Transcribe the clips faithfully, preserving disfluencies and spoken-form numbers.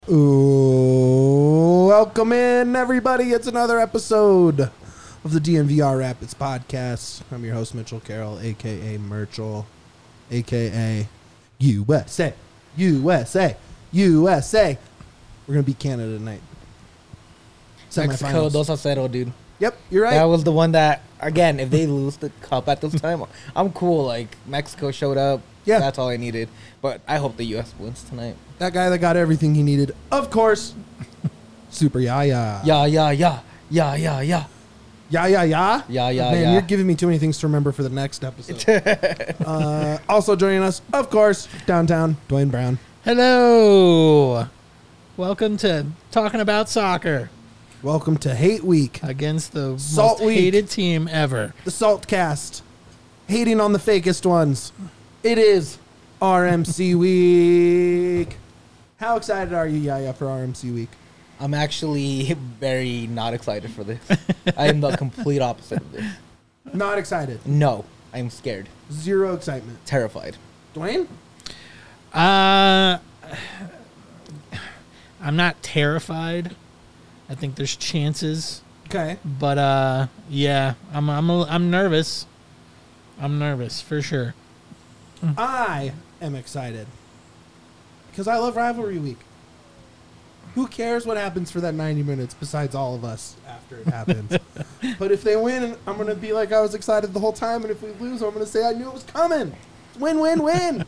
Ooh, welcome in, everybody. It's another episode of the D N V R Rapids podcast. I'm your host, Mitchell Carroll, a k a. Merchel, a k a. U S A, U S A, U S A. We're going to beat Canada tonight. Mexico, dos a cero, dude. Yep, you're right. That was the one that, again, if they lose the cup at this time, I'm cool. Like, Mexico showed up. Yeah. That's all I needed. But I hope the U S wins tonight. That guy that got everything he needed, of course, Super Yaya. Yeah, yeah, yeah. Yeah, yeah, yeah. Yeah, yeah, yeah? Yeah, yeah, Man, yeah. you're giving me too many things to remember for the next episode. uh, also joining us, of course, downtown, Dwayne Brown. Hello. Welcome to Talking About Soccer Welcome to Hate Week, against the Salt most Week. hated team ever. the Salt Cast, hating on the fakest ones. It is R M C Week. How excited are you, Yaya, for R M C Week? I'm actually very not excited for this. I am the complete opposite of this. Not excited. No, I'm scared. Zero excitement. Terrified. Dwayne? Uh, I'm not terrified. I think there's chances, Okay. but uh, yeah, I'm I'm a, I'm nervous. I'm nervous for sure. I am excited because I love Rivalry Week. Who cares what happens for that ninety minutes besides all of us after it happens? But if they win, I'm going to be like I was excited the whole time. And if we lose, I'm going to say I knew it was coming. Win, win, win.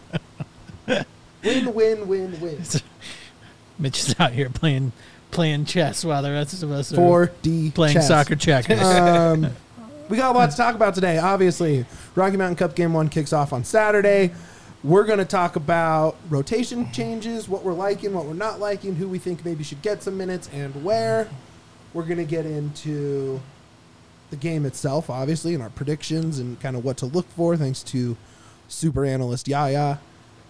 Win, win, win, win. Mitch is out here playing playing chess while the rest of us are four D playing chess. soccer checkers. Um, we got a lot to talk about today. Obviously, Rocky Mountain Cup Game one kicks off on Saturday. We're going to talk about rotation changes, what we're liking, what we're not liking, who we think maybe should get some minutes, and where. We're going to get into the game itself, obviously, and our predictions and kind of what to look for, thanks to super analyst Yaya.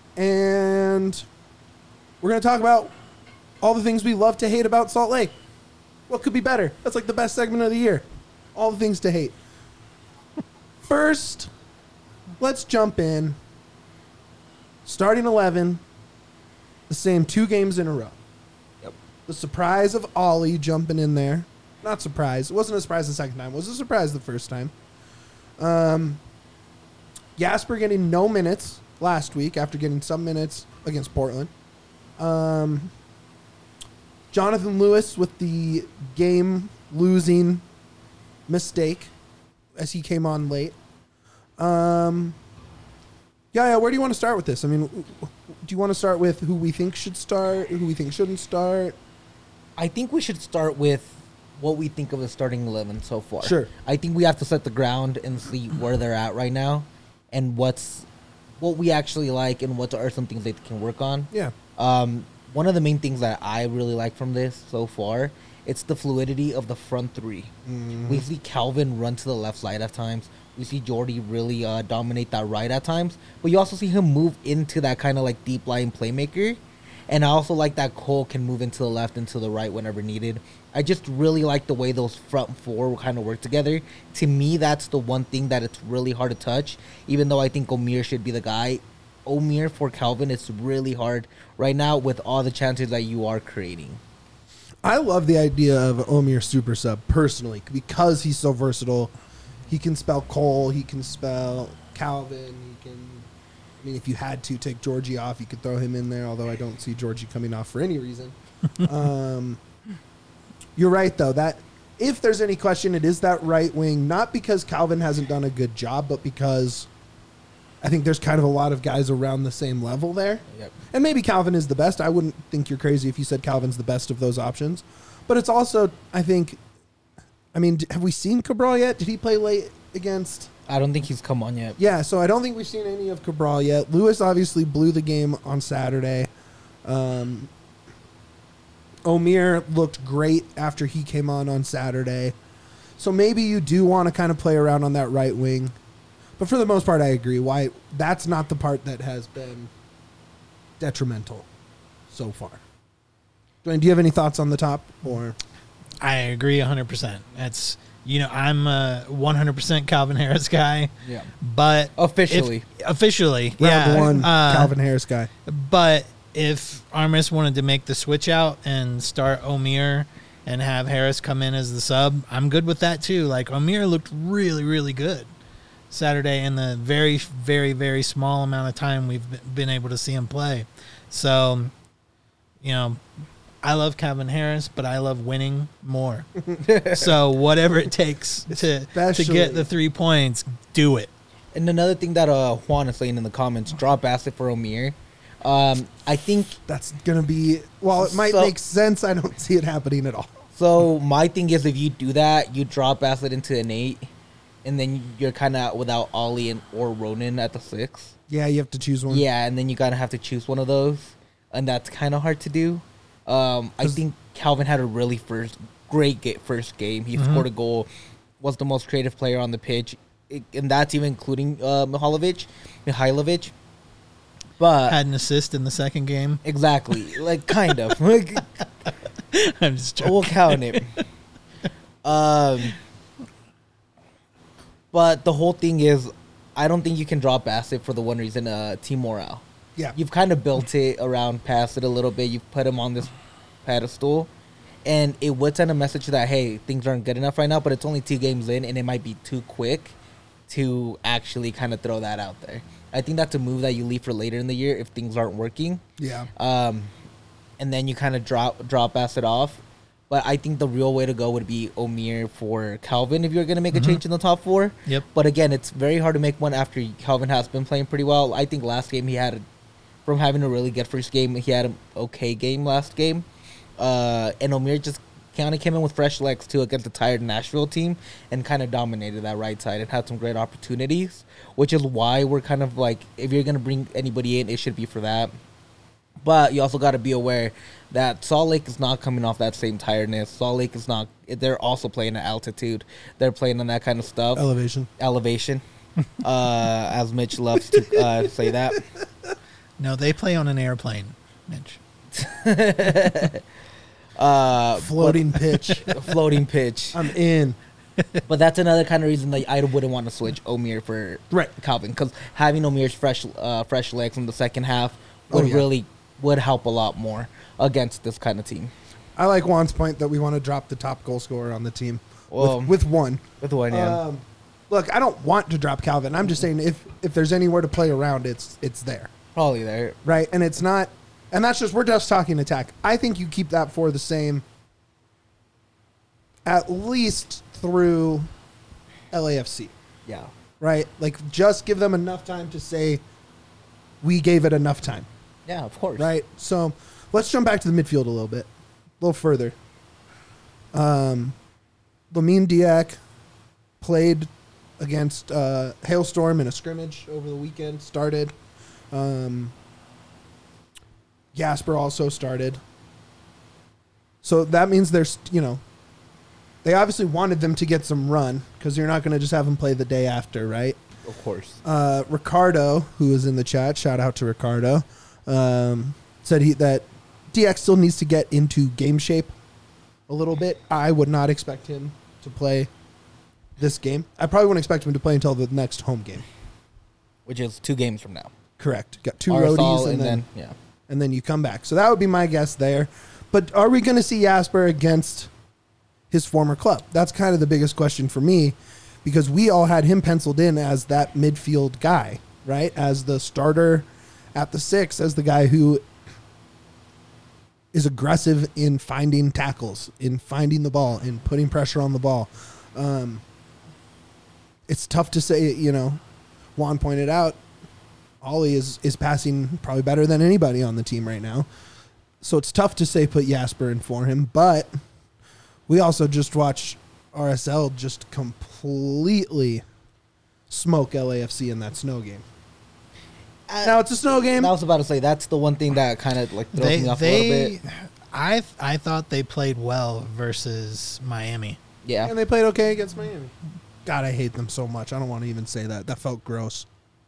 And we're going to talk about all the things we love to hate about Salt Lake. What could be better? That's like the best segment of the year. All the things to hate. First, let's jump in. Starting eleven, the same two games in a row. Yep. The surprise of Ollie jumping in there. Not surprise. It wasn't a surprise the second time. It was a surprise the first time. Um, Jasper getting no minutes last week after getting some minutes against Portland. Um, Jonathan Lewis with the game-losing mistake as he came on late. Um... Yeah, yeah, where do you want to start with this? I mean, do you want to start with who we think should start, who we think shouldn't start? I think we should start with what we think of the starting eleven so far. Sure. I think we have to set the ground and see where they're at right now and what's what we actually like and what are some things they can work on. Yeah. Um, one of the main things that I really like from this so far, it's the fluidity of the front three. Mm-hmm. We see Calvin run to the left side at times. We see Jordy really uh, dominate that right at times. But you also see him move into that kind of like deep lying playmaker. And I also like that Cole can move into the left and to the right whenever needed. I just really like the way those front four kind of work together. To me, that's the one thing that it's really hard to touch. Even though I think Omir should be the guy. Omir for Calvin, it's really hard right now with all the chances that you are creating. I love the idea of Omir super sub personally because he's so versatile. He can spell Cole. He can spell Calvin. He can. I mean, if you had to take Georgie off, you could throw him in there. Although I don't see Georgie coming off for any reason. um, you're right, though. That if there's any question, it is that right wing. Not because Calvin hasn't done a good job, but because I think there's kind of a lot of guys around the same level there. Yep. And maybe Calvin is the best. I wouldn't think you're crazy if you said Calvin's the best of those options. But it's also, I think. I mean, have we seen Cabral yet? Did he play late against? I don't think he's come on yet. Yeah, so I don't think we've seen any of Cabral yet. Lewis obviously blew the game on Saturday. Um, Omir looked great after he came on on Saturday. So maybe you do want to kind of play around on that right wing. But for the most part, I agree. Why that's not the part that has been detrimental so far. Dwayne, do you have any thoughts on the top? Or I agree one hundred percent. That's, you know, I'm a one hundred percent Calvin Harris guy. Yeah. But Officially. If, officially. round yeah. one, uh, Calvin Harris guy. But if Armis wanted to make the switch out and start Omir and have Harris come in as the sub, I'm good with that too. Like, Omir looked really, really good Saturday in the very, very, very small amount of time we've been able to see him play. So, you know, I love Calvin Harris, but I love winning more. So whatever it takes to to Especially- get the three points, do it. And another thing that uh, Juan is saying in the comments, drop Bassett for Omir. Um, I think That's gonna be. While it might So- make sense, I don't see it happening at all. so. My thing is, if you do that, you drop Bassett into an eight, and then you're kind of without Ollie and or Ronan at the six. Yeah, you have to choose one. Yeah, and then you gotta have to choose one of those, and that's kind of hard to do. Um, I 'Cause- think Calvin had a really first great ga- first game. He scored a goal, was the most creative player on the pitch, it, and that's even including uh, Mihailovic. Mihailovic, but Had an assist in the second game. exactly, like kind of. Like, I'm just joking. we'll count it. Um, but the whole thing is, I don't think you can drop Bassett for the one reason, uh, team morale. Yeah. You've kind of built it around Bassett a little bit. You've put him on this pedestal, and it would send a message that, hey, things aren't good enough right now, but it's only two games in, and it might be too quick to actually kind of throw that out there. I think that's a move that you leave for later in the year if things aren't working. Yeah. Um, and then you kind of drop drop Bassett off. But I think the real way to go would be Omir for Calvin if you're going to make a change in the top four. Yep. But again, it's very hard to make one after Calvin has been playing pretty well. I think last game he had, a, from having a really good first game, he had an okay game last game. Uh, and Omir just kind of came in with fresh legs too against a tired Nashville team and kind of dominated that right side and had some great opportunities, which is why we're kind of like, if you're going to bring anybody in, it should be for that. But you also got to be aware that Salt Lake is not coming off that same tiredness. Salt Lake is not. They're also playing at altitude. They're playing on that kind of stuff. Elevation. Elevation, uh, as Mitch loves to uh, say that. No, they play on an airplane, Mitch. Uh, Floating pitch. but- floating pitch. I'm in. But that's another kind of reason that I wouldn't want to switch Omir for Right. Calvin, because having Omir's fresh, uh, fresh legs in the second half would Oh, yeah. really would help a lot more against this kind of team. I like Juan's point that we want to drop the top goal scorer on the team Well, with, with one. With one, yeah. Um, look, I don't want to drop Calvin. I'm just saying if if there's anywhere to play around, it's it's there, Probably there. right? And it's not, and that's just we're just talking attack. I think you keep that for the same, at least through L A F C, Yeah. right? Like just give them enough time to say we gave it enough time, Yeah, of course. right? So let's jump back to the midfield a little bit, a little further. Um, Lamine Diak played against uh, Hailstorm in a scrimmage over the weekend. Started. Um, Gasper also started. So that means there's, you know, they obviously wanted them to get some run because you're not going to just have them play the day after, right? Of course. Uh, Ricardo, who is in the chat, shout out to Ricardo, um, said he that D X still needs to get into game shape a little bit. I would not expect him to play this game. I probably wouldn't expect him to play until the next home game. Which is two games from now. Correct. Got two Arsal roadies and, and then, then, yeah. and then you come back. So that would be my guess there. But are we going to see Jasper against his former club? That's kind of the biggest question for me because we all had him penciled in as that midfield guy, right? As the starter at the six, as the guy who is aggressive in finding tackles, in finding the ball, in putting pressure on the ball. Um, it's tough to say, you know, Juan pointed out, Ollie is, is passing probably better than anybody on the team right now. So it's tough to say put Jasper in for him, but we also just watched R S L just completely smoke L A F C in that snow game. Now it's a snow game. I was about to say, that's the one thing that kind of like throws They, me off a little they, bit. I, I thought they played well versus Miami. Yeah. And they played okay against Miami. God, I hate them so much. I don't want to even say that. That felt gross.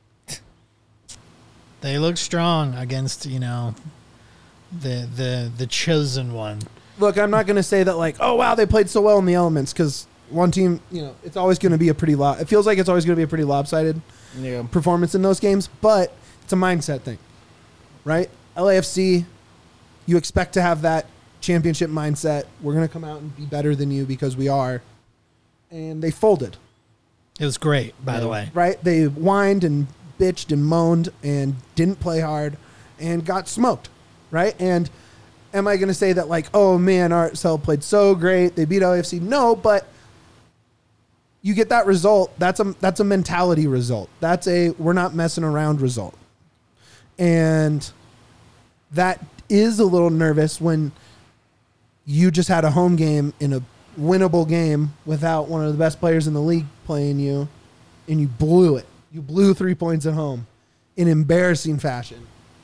They looked strong against, you know, the the the chosen one. Look, I'm not going to say that like, oh, wow, they played so well in the elements because one team, you know, it's always going to be a pretty lo- – it feels like it's always going to be a pretty lopsided Yeah. performance in those games, but it's a mindset thing, right? L A F C, you expect to have that championship mindset. We're going to come out and be better than you because we are. And they folded. It was great, by yeah. the way. Right? They whined and bitched and moaned and didn't play hard and got smoked. Right? And am I going to say that, like, oh, man, R S L played so great. They beat L A F C. No, but you get that result. That's a, that's a mentality result. That's a we're not messing around result. And that is a little nervous when you just had a home game in a winnable game without one of the best players in the league playing you, and you blew it. You blew three points at home in embarrassing fashion.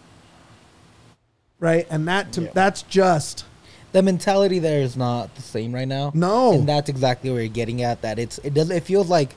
Right? And that to, yeah. that's just... The mentality there is not the same right now. No. And that's exactly where you're getting at, that it's it does it feels like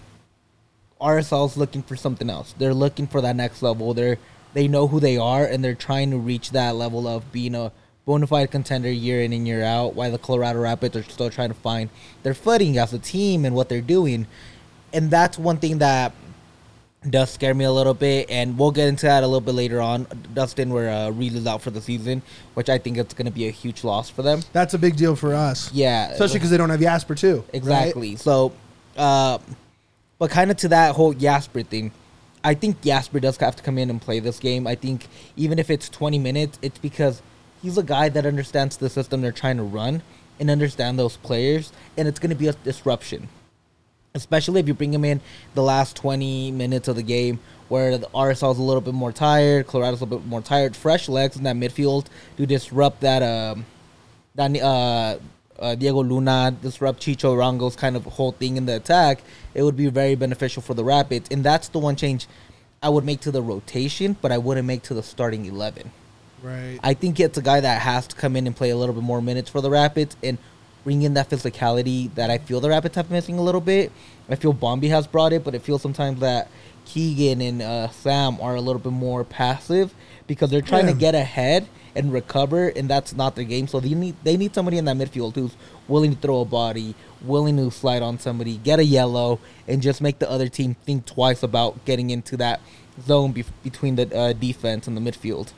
R S L's looking for something else. They're looking for that next level. They're they know who they are, and they're trying to reach that level of being a bona fide contender year in and year out, while the Colorado Rapids are still trying to find their footing as a team and what they're doing. And that's one thing that does scare me a little bit, and we'll get into that a little bit later on. Dustin, where uh, Reed is out for the season, which I think it's going to be a huge loss for them. That's a big deal for us. Yeah. Especially because they don't have Jasper, too. Exactly. Right? So, uh, but kind of to that whole Jasper thing, I think Jasper does have to come in and play this game. I think even if it's twenty minutes, it's because he's a guy that understands the system they're trying to run and understand those players, and it's going to be a disruption. Especially if you bring him in the last twenty minutes of the game where the R S L is a little bit more tired, Colorado's a little bit more tired, fresh legs in that midfield to disrupt that, um, that uh, uh, Diego Luna, disrupt Chicho Arango's kind of whole thing in the attack. It would be very beneficial for the Rapids. And that's the one change I would make to the rotation, but I wouldn't make to the starting eleven. Right. I think it's a guy that has to come in and play a little bit more minutes for the Rapids and bring in that physicality that I feel the Rapids have missing a little bit. I feel Bombi has brought it, but it feels sometimes that Keegan and uh, Sam are a little bit more passive because they're trying yeah. to get ahead and recover, and that's not their game. So they need they need somebody in that midfield who's willing to throw a body, willing to slide on somebody, get a yellow, and just make the other team think twice about getting into that zone be- between the uh, defense and the midfield.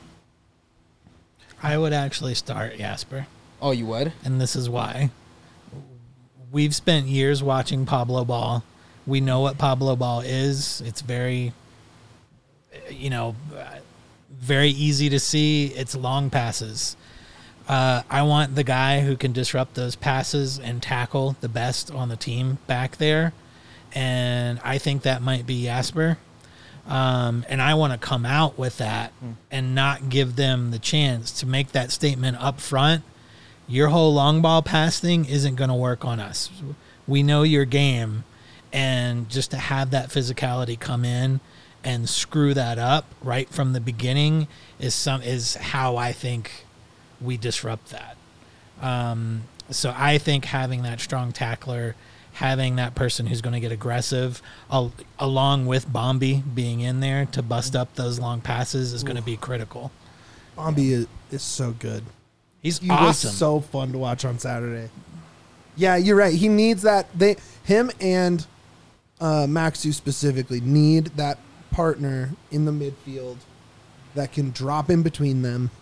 I would actually start Jasper. Oh, you would? And this is why. We've spent years watching Pablo Ball. We know what Pablo Ball is. It's very, you know, very easy to see. It's long passes. Uh, I want the guy who can disrupt those passes and tackle the best on the team back there. And I think that might be Jasper. Um, and I want to come out with that mm. and not give them the chance to make that statement up front. Your whole long ball pass thing isn't going to work on us. We know your game, and just to have that physicality come in and screw that up right from the beginning is some is how I think we disrupt that. Um, so I think having that strong tackler, having that person who's going to get aggressive, al- along with Bombi being in there to bust up those long passes is going to be critical. Bombi is, is so good. He's he awesome. was so fun to watch on Saturday. Yeah, you're right. He needs that. They, him and uh, Maxu specifically need that partner in the midfield that can drop in between them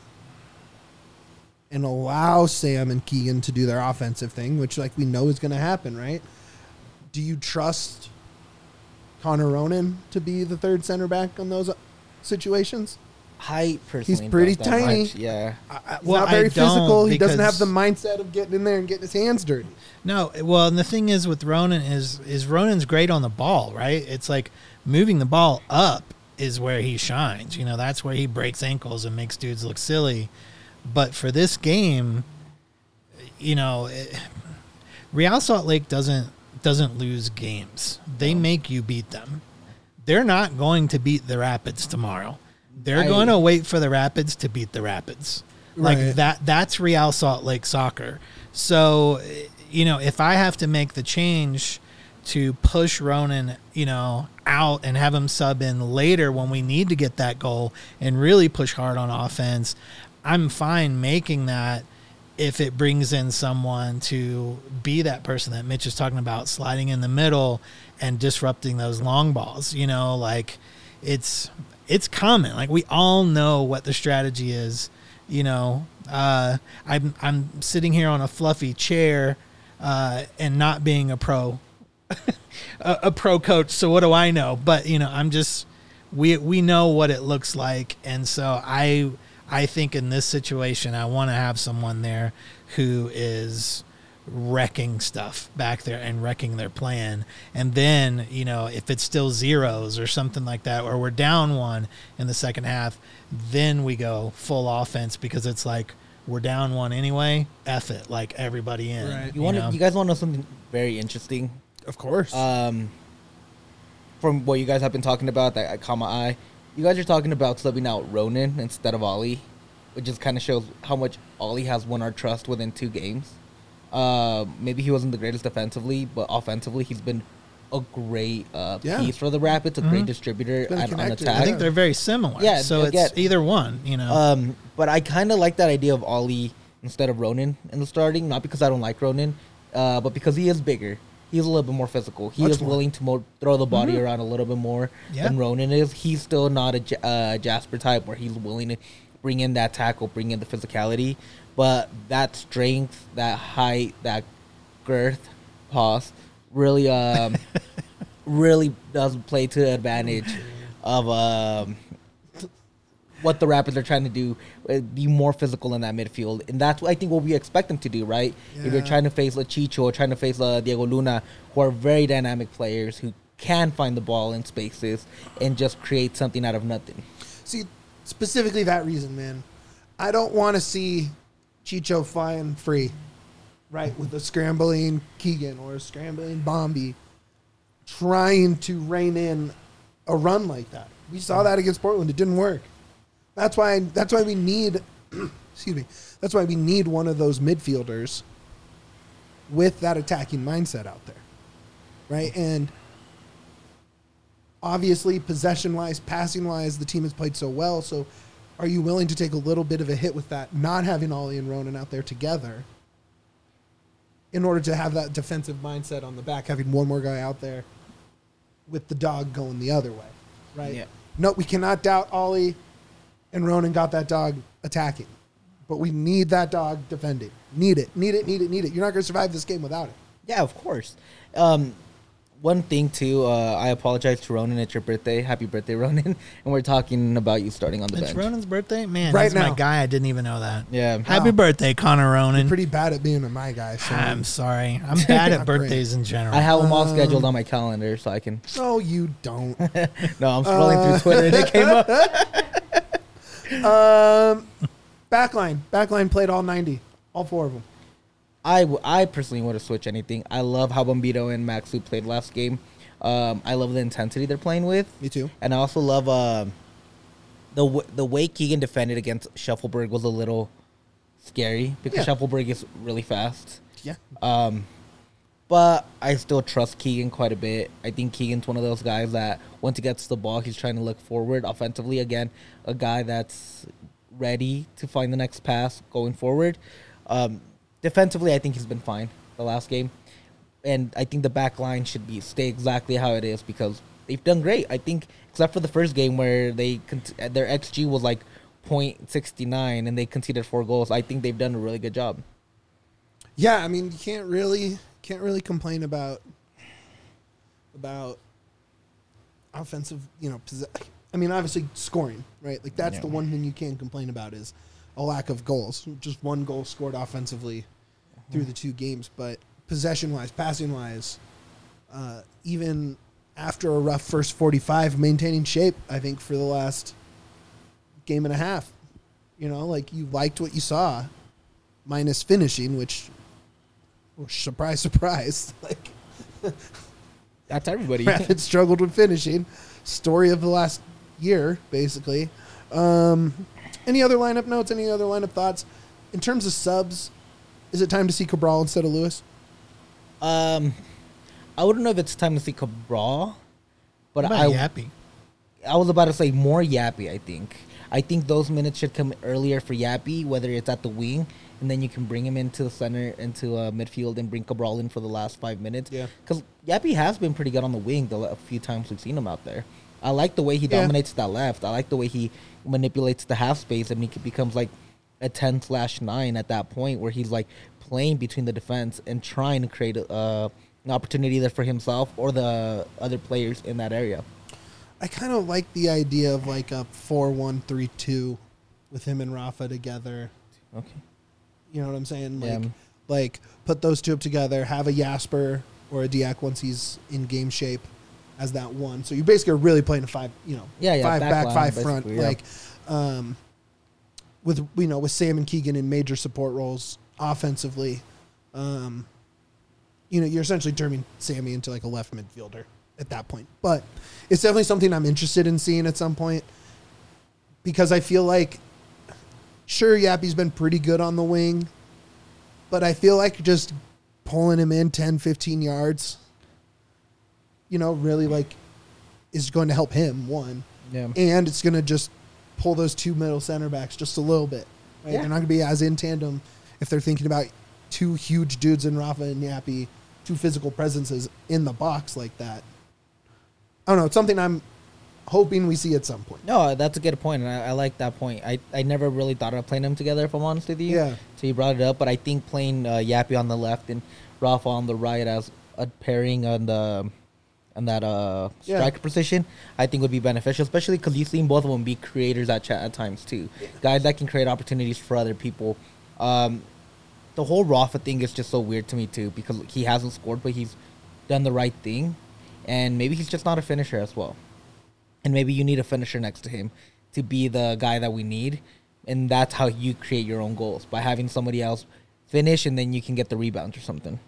and allow Sam and Keegan to do their offensive thing, which, like, we know is going to happen, right? Do you trust Connor Ronan to be the third center back on those situations? I personally He's pretty don't that tiny. much, Yeah. I, he's Well, not very I don't physical. He doesn't have because- the mindset of getting in there and getting his hands dirty. No, well, and the thing is with Ronan is is Ronan's great on the ball, right? It's like moving the ball up is where he shines. You know, that's where he breaks ankles and makes dudes look silly. But for this game, you know, it, Real Salt Lake doesn't doesn't lose games. They make you beat them. They're not going to beat the Rapids tomorrow. They're I, going to wait for the Rapids to beat the Rapids. Like Right. that that's Real Salt Lake soccer. So, you know, if I have to make the change to push Ronan, you know, out and have him sub in later when we need to get that goal and really push hard on offense, I'm fine making that if it brings in someone to be that person that Mitch is talking about, sliding in the middle and disrupting those long balls. You know, like it's it's common. Like we all know what the strategy is. You know, uh, I'm I'm sitting here on a fluffy chair uh, and not being a pro, a, a pro coach. So what do I know? But you know, I'm just we we know what it looks like, and so I I think in this situation, I want to have someone there who is wrecking stuff back there and wrecking their plan. And then, you know, if it's still zeros or something like that, or we're down one in the second half, then we go full offense because it's like we're down one anyway. F it, like everybody in. Right. You want know? you guys want to know something very interesting? Of course. Um, from what you guys have been talking about, that I caught my eye. You guys are talking about subbing out Ronan instead of Ollie, which just kind of shows how much Ollie has won our trust within two games. Uh, maybe he wasn't the greatest defensively, but offensively, he's been a great uh, Yeah. piece for the Rapids, a Mhm. great distributor Been a at, on connector, attack. I think they're very similar. Yeah, So I it's get- either one, you know. Um, but I kind of like that idea of Ollie instead of Ronan in the starting, not because I don't like Ronan, uh, but because he is bigger. He's a little bit more physical. He Much is more. willing to mo- throw the body around a little bit more Yeah. than Ronan is. He's still not a Ja- uh, Jasper type where he's willing to bring in that tackle, bring in the physicality, but that strength, that height, that girth, pause, really, um, really does play to the advantage of um, what the Rapids are trying to do, uh, be more physical in that midfield. And that's what I think what we expect them to do, right? If you're Yeah. trying to face Lachicho or trying to face uh, Diego Luna, who are very dynamic players who can find the ball in spaces and just create something out of nothing. See, specifically that reason, man. I don't want to see Chicho flying free, right, with a scrambling Keegan or a scrambling Bombi trying to rein in a run like that. We saw that against Portland. It didn't work. That's why. That's why we need. excuse me. That's why we need one of those midfielders with that attacking mindset out there, right? And obviously, possession-wise, passing-wise, the team has played so well. So, are you willing to take a little bit of a hit with that, not having Ollie and Ronan out there together, in order to have that defensive mindset on the back, having one more guy out there with the dog going the other way, right? Yeah. No, we cannot doubt Ollie and Ronan got that dog attacking, but we need that dog defending. Need it, need it, need it, need it. You're not going to survive this game without it. Yeah, of course. Um, one thing, too, uh, I apologize to Ronan. It's your birthday. Happy birthday, Ronan. And we're talking about you starting on the It's bench. Ronan's birthday? Man, Right he's my now. guy. I didn't even know that. Yeah. Happy Wow. birthday, Connor Ronan. Pretty bad at being a my guy. So I'm sorry. I'm bad at Not great. birthdays in general. I have them all Um, scheduled on my calendar so I can... no, you don't. No, I'm scrolling Uh, through Twitter and it came up. um, backline, backline played all ninety, all four of them. I, w- I personally want to switch anything. I love how Bombito and Maxu played last game. Um, I love the intensity they're playing with. Me too. And I also love um the w- the way Keegan defended against Shuffleberg was a little scary because Yeah. Shuffleberg is really fast. Yeah. Um, but I still trust Keegan quite a bit. I think Keegan's one of those guys that once he gets the ball, he's trying to look forward offensively. Again, a guy that's ready to find the next pass going forward. Um, defensively, I think he's been fine the last game. And I think the back line should be stay exactly how it is because they've done great. I think except for the first game where they con- their X G was like point six nine and they conceded four goals. I think they've done a really good job. Yeah, I mean, you can't really can't really complain about about offensive, you know, possess- I mean, obviously scoring, right? Like that's Yeah. the one thing you can complain about is a lack of goals. Just one goal scored offensively through the two games, but possession-wise, passing-wise, uh, even after a rough first forty-five, maintaining shape, I think, for the last game and a half. You know, like you liked what you saw, minus finishing, which, well, surprise, surprise, like That's everybody. Rapids struggled with finishing. Story of the last year, basically. Um, any other lineup notes? Any other lineup thoughts? In terms of subs, is it time to see Cabral instead of Lewis? um, I wouldn't know if it's time to see Cabral, but What I about Yappy? I was about to say more Yappy, I think. I think those minutes should come earlier for Yappy, whether it's at the wing, and then you can bring him into the center, into uh, midfield, and bring Cabral in for the last five minutes. Yeah. Because Yappy has been pretty good on the wing the a few times we've seen him out there. I like the way he Yeah. dominates that left. I like the way he manipulates the half space, and he c- becomes like a ten slash nine at that point where he's like playing between the defense and trying to create a, uh, an opportunity either for himself or the other players in that area. I kind of like the idea of like a four one three two with him and Rafa together. Okay. You know what I'm saying? Like, Yeah. like put those two up together, have a Jasper or a Diak once he's in game shape as that one. So you basically are really playing a five, you know, Yeah, yeah, five back back, line, five front. basically, yeah. Like, um, with, you know, with Sam and Keegan in major support roles offensively, um, you know, you're essentially turning Sammy into like a left midfielder at that point. But it's definitely something I'm interested in seeing at some point because I feel like, sure, Yappy's been pretty good on the wing, but I feel like just pulling him in ten, fifteen yards, you know, really like is going to help him, one. Yeah. And it's going to just pull those two middle center backs just a little bit. Right? Yeah. They're not going to be as in tandem if they're thinking about two huge dudes in Rafa and Yappy, two physical presences in the box like that. I don't know. It's something I'm hoping we see at some point. No, that's a good point, and I, I like that point. I, I never really thought of playing them together, if I'm honest with you. Yeah. So you brought it up, but I think playing uh, Yappy on the left and Rafa on the right as a pairing on the on that uh, Yeah. striker position, I think would be beneficial, especially because you've seen both of them be creators at, ch- at times too. Guys that can create opportunities for other people. Um, the whole Rafa thing is just so weird to me too, because he hasn't scored, but he's done the right thing, and maybe he's just not a finisher as well. And maybe you need a finisher next to him to be the guy that we need. And that's how you create your own goals, by having somebody else finish, and then you can get the rebounds or something.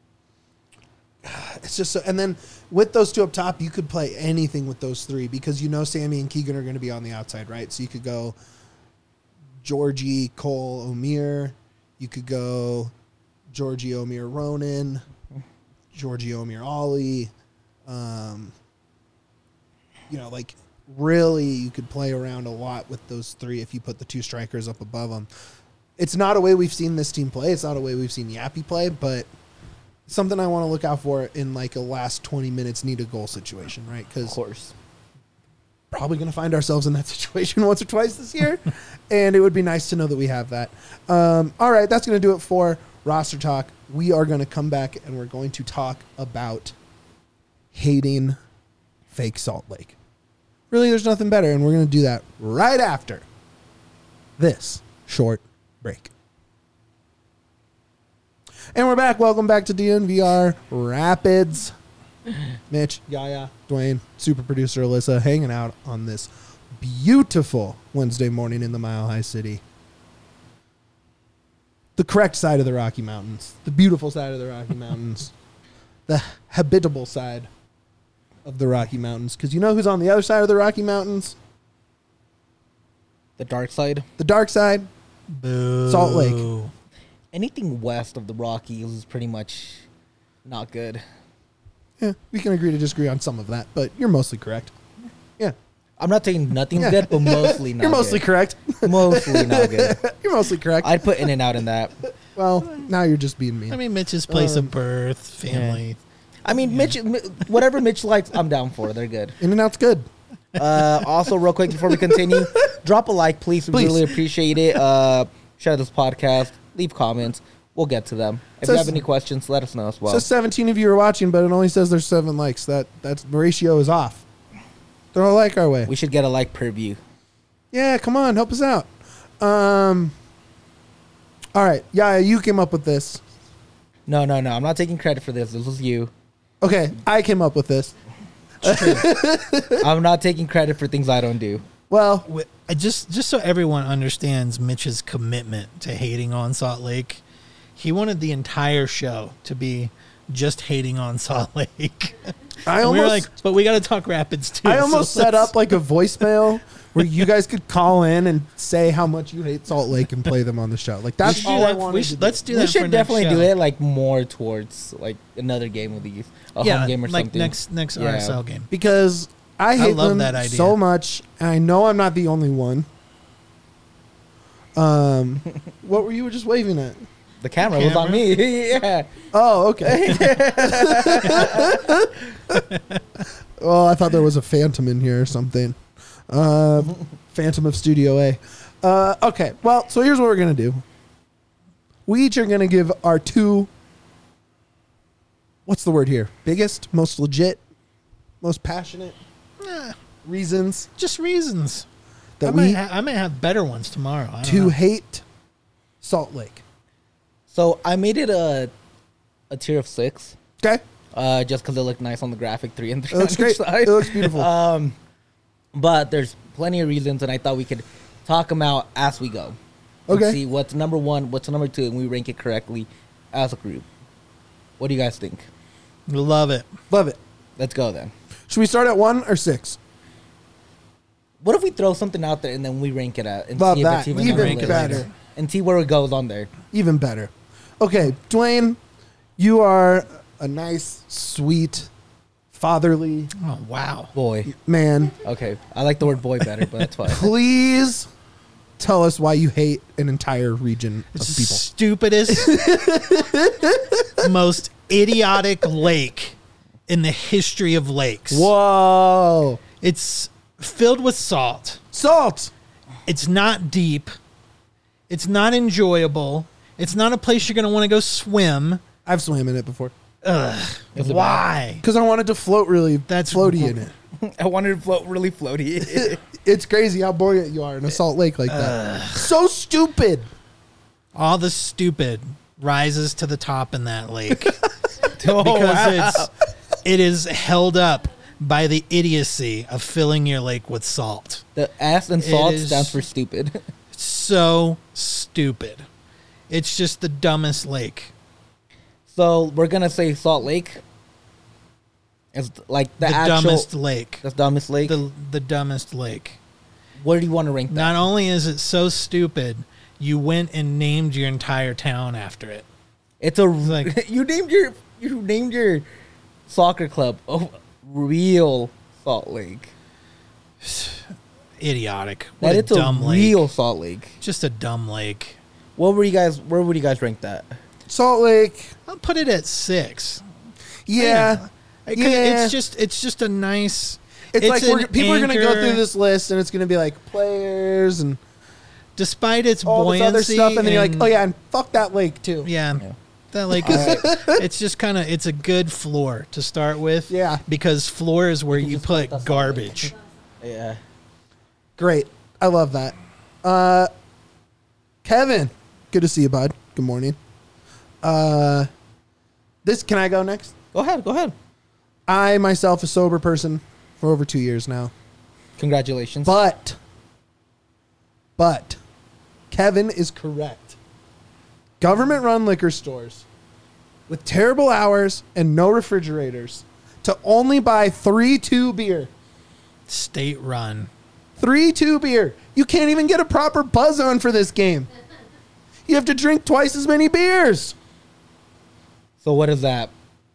It's just so, and then with those two up top, you could play anything with those three because you know Sammy and Keegan are going to be on the outside, right? So you could go Georgie, Cole, Omir. You could go Georgie, Omir, Ronan, Georgie, Omir, Ollie. Um, you know, like really, you could play around a lot with those three if you put the two strikers up above them. It's not a way we've seen this team play. It's not a way we've seen Yappy play, but something I want to look out for in like a last twenty minutes need a goal situation, right? Of Because course. probably going to find ourselves in that situation once or twice this year, and it would be nice to know that we have that. Um, all right, that's going to do it for roster talk. We are going to come back and we're going to talk about hating fake Salt Lake. Really, there's nothing better, and we're going to do that right after this short break. And we're back. Welcome back to D N V R Rapids. Mitch, Yaya, Dwayne, super producer Alyssa, hanging out on this beautiful Wednesday morning in the Mile High City. The correct side of the Rocky Mountains. The beautiful side of the Rocky Mountains. The habitable side of the Rocky Mountains. Because you know who's on the other side of the Rocky Mountains? The dark side. The dark side. Boo. Salt Lake. Anything west of the Rockies is pretty much not good. Yeah, we can agree to disagree on some of that, but you're mostly correct. Yeah. I'm not saying nothing's Yeah. good, but mostly not You're mostly good. correct. Mostly not good. You're mostly correct. I'd put In and Out in that. well, now you're just being mean. I mean, Mitch's place Um, of birth, family. I mean, Mitch, Mi- whatever Mitch likes, I'm down for. They're good. In and Out's good. Uh, also, real quick before we continue, drop a like, please. We Please. really appreciate it. Uh, share this podcast. Leave comments. We'll get to them. If Says- you have any questions, let us know as well. Says seventeen of you are watching, but it only says there's seven likes. That that's the ratio is off. Throw a like our way. We should get a like per view. Yeah, come on, help us out. Um. All right, yeah, you came up with this. No, no, no. I'm not taking credit for this. This was you. Okay, I came up with this. I'm not taking credit for things I don't do. Well, Wi- I just just so everyone understands Mitch's commitment to hating on Salt Lake, he wanted the entire show to be just hating on Salt Lake. I And we were almost, like, but we got to talk Rapids too. I so almost set let's- up like a voicemail where you guys could call in and say how much you hate Salt Lake and play them on the show. Like We that's should do all I that- wanted we to should- do. Let's do that. We for should next definitely show. do it like more towards like another game of these, a yeah, home game or like something. next next Yeah. R S L game. because I hate love them that idea. so much, and I know I'm not the only one. Um, what were you just waving at? The camera, was on camera? me. Yeah. Oh, okay. Well, I thought there was a phantom in here or something. Uh, Phantom of Studio A. Uh, okay, well, so here's what we're going to do. We each are going to give our two, what's the word here? Biggest, most legit, most passionate Eh, reasons just reasons. I that might, we ha- I might have better ones tomorrow. I don't to know. hate Salt Lake. So I made it a a tier of six, Okay? uh, just because it looked nice on the graphic, three and It three. looks on great. each side. It looks beautiful. Um, but there's plenty of reasons, and I thought we could talk them out as we go. And Okay. See what's number one, what's number two, and we rank it correctly as a group. What do you guys think? Love it. Love it. Let's go then. Should we start at one or six? What if we throw something out there and then we rank it out and Love see if that. it's even, Even on the list? better. And see where it goes on there. Even better. Okay, Dwayne, you are a nice, sweet, fatherly Oh wow. Boy. man. Okay. I like the word boy better, but that's fine. Please tell us why you hate an entire region of It's the people. stupidest, most idiotic lake in the history of lakes. Whoa. It's filled with salt. Salt. It's not deep. It's not enjoyable. It's not a place you're going to want to go swim. I've swam in it before. Ugh. Is it Why? Because I wanted to float really That's floaty in it. I wanted to float really floaty. It's crazy how buoyant you are in a salt lake like that. So stupid. All the stupid rises to the top in that lake Oh, because wow. it's it is held up by the idiocy of filling your lake with salt. The S and salt is- stands for stupid. So stupid. It's just the dumbest lake. So we're gonna say Salt Lake. It's like the, The, actual dumbest lake. the dumbest lake. The the dumbest lake. Where do you want to rank that? Not only is it so stupid, you went and named your entire town after it. It's a like- you named your you named your soccer club oh, Real Salt Lake. Idiotic. What That a it's a dumb lake. real Salt Lake. Just a dumb lake. What were you guys? Where would you guys rank that? Salt Lake. I'll put it at six. Yeah. It- Yeah. It's just it's just a nice. It's, like an we're, people are going to go anchor. through this list and it's going to be like players and Despite its all this buoyancy, other stuff. And then you're like, and- oh, yeah, and fuck that lake too. yeah, Yeah. that lake is. It's just kind of it's a good floor to start with. Yeah. because floor is where you just put put that garbage. Yeah. Great. I love that. Uh, Kevin, good to see you, bud. Good morning. Uh, this can I go next? Go ahead. Go ahead. I myself a sober person for over two years now, Congratulations. but but Kevin is correct. Government-run liquor stores with terrible hours and no refrigerators to only buy three two beer. State run. Three two beer. You can't even get a proper buzz on for this game. You have to drink twice as many beers. So what is that?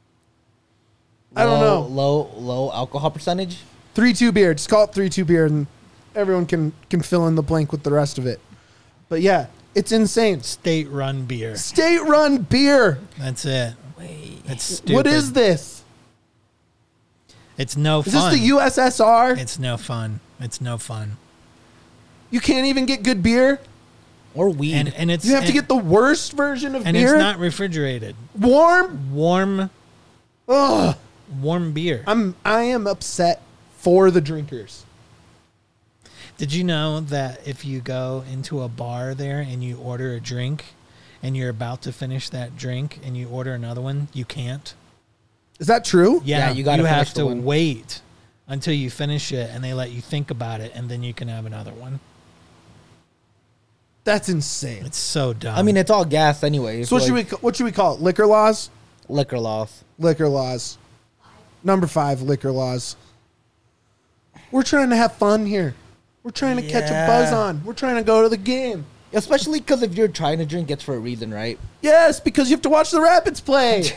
I don't Low- know. Low low alcohol percentage. Three two beer. Just call it three two beer, and everyone can can fill in the blank with the rest of it. But yeah, it's insane. State run beer. State run beer. That's it. Wait. It's stupid. What is this? It's no Is fun. this the U S S R? It's no fun. It's no fun. You can't even get good beer. Or weed. And and it's You have to and- get the worst version of and beer. it's not refrigerated. warm. Warm Ugh. warm beer. I'm I am upset for the drinkers. Did you know that if you go into a bar there and you order a drink and you're about to finish that drink and you order another one, you can't? Is that true? Yeah, Yeah, you gotta you have finish the to one. wait until you finish it and they let you think about it and then you can have another one. That's insane. It's so dumb. I mean, it's all gas anyway. So what should we ca- what should we call it? Liquor laws? Liquor laws. Liquor laws. Number five, liquor laws. We're trying to have fun here. We're trying to catch a buzz Yeah. on. We're trying to go to the game. Especially because if you're trying to drink, it's for a reason, right? Yes, because you have to watch the Rapids play.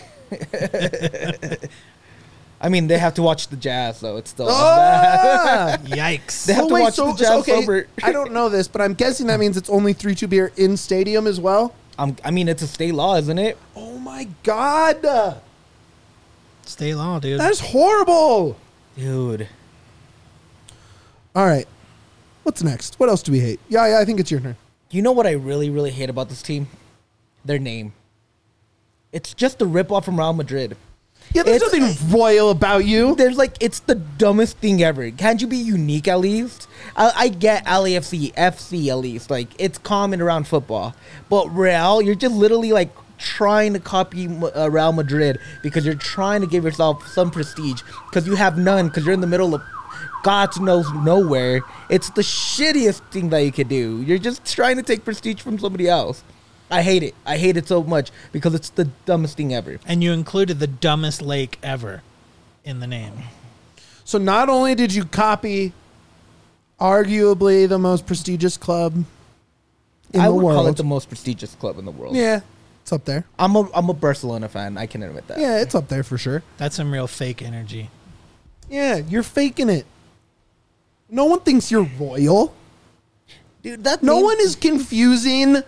I mean, they have to watch the Jazz, so it's still. Ah! yikes. They have to watch the Jazz sober. I don't know this, but I'm guessing that means it's only three two beer in stadium as well. Um, I mean, it's a state law, isn't it? Oh my god, State law, dude. that's horrible. Dude. All right, what's next? What else do we hate? Yeah, yeah, I think it's your turn. You know what I really, really hate about this team? Their name. It's just a ripoff from Real Madrid. Yeah, there's It's- nothing royal about you. There's like, it's the dumbest thing ever. Can't you be unique at least? I, I get L A F C, F C at least. Like, it's common around football. But Real, you're just literally like trying to copy uh, Real Madrid because you're trying to give yourself some prestige because you have none because you're in the middle of God knows nowhere. It's the shittiest thing that you could do. You're just trying to take prestige from somebody else. I hate it. I hate it so much because it's the dumbest thing ever. And you included the dumbest lake ever in the name. So not only did you copy arguably the most prestigious club in I the would world. call it the most prestigious club in the world. Yeah, it's up there. I'm a I'm a Barcelona fan. I can admit that. Yeah, it's up there for sure. That's some real fake energy. Yeah, you're faking it. No one thinks you're royal. Dude, that No name- one is confusing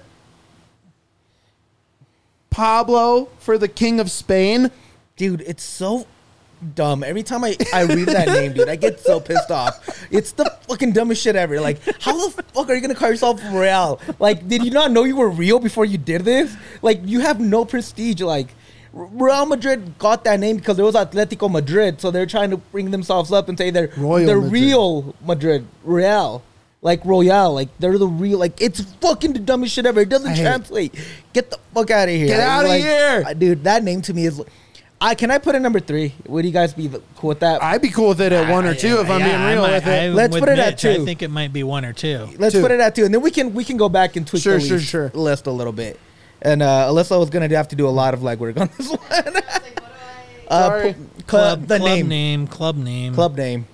Pablo for the King of Spain. Dude, it's so dumb. Every time I, I read that name, dude, I get so pissed off. It's the fucking dumbest shit ever. Like, how the fuck are you gonna call yourself Real? Like, did you not know you were real before you did this? Like, you have no prestige. Like, Real Madrid got that name because it was Atletico Madrid, so they're trying to bring themselves up and say they're Royal they're Madrid. real Madrid, Real. Like Royale, like they're the real, like it's fucking the dumbest shit ever. It doesn't I hate it. translate. Get the fuck out of here. Get outta Like, here. uh, dude. That name to me is. I can I put it number three? Would you guys be cool with that? I'd be cool with it at one or two if I'm Yeah, being real I might- with it. I'm Let's with put it at Mitch. two. I think it might be one or two. Let's Two. put it at two, and then we can we can go back and tweak Sure, the sure, list, sure. list a little bit. And uh, Alyssa was gonna have to do a lot of legwork on this one. uh, Sorry. pu- Club, club, the club name, name, club name. club name.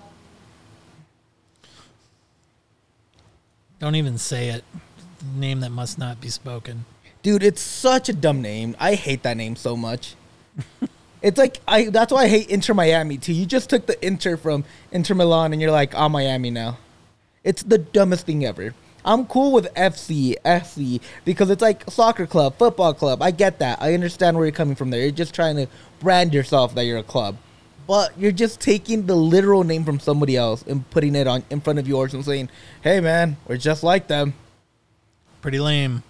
Don't even say it. Name that must not be spoken. Dude, it's such a dumb name. I hate that name so much. It's like I. That's why I hate Inter Miami too. You just took the Inter from Inter Milan, and you're like, I'm Miami now. It's the dumbest thing ever. I'm cool with F C, F C, because it's like a soccer club, football club. I get that. I understand where you're coming from there. You're just trying to brand yourself that you're a club. But you're just taking the literal name from somebody else and putting it on in front of yours and saying, hey, man, we're just like them. Pretty lame.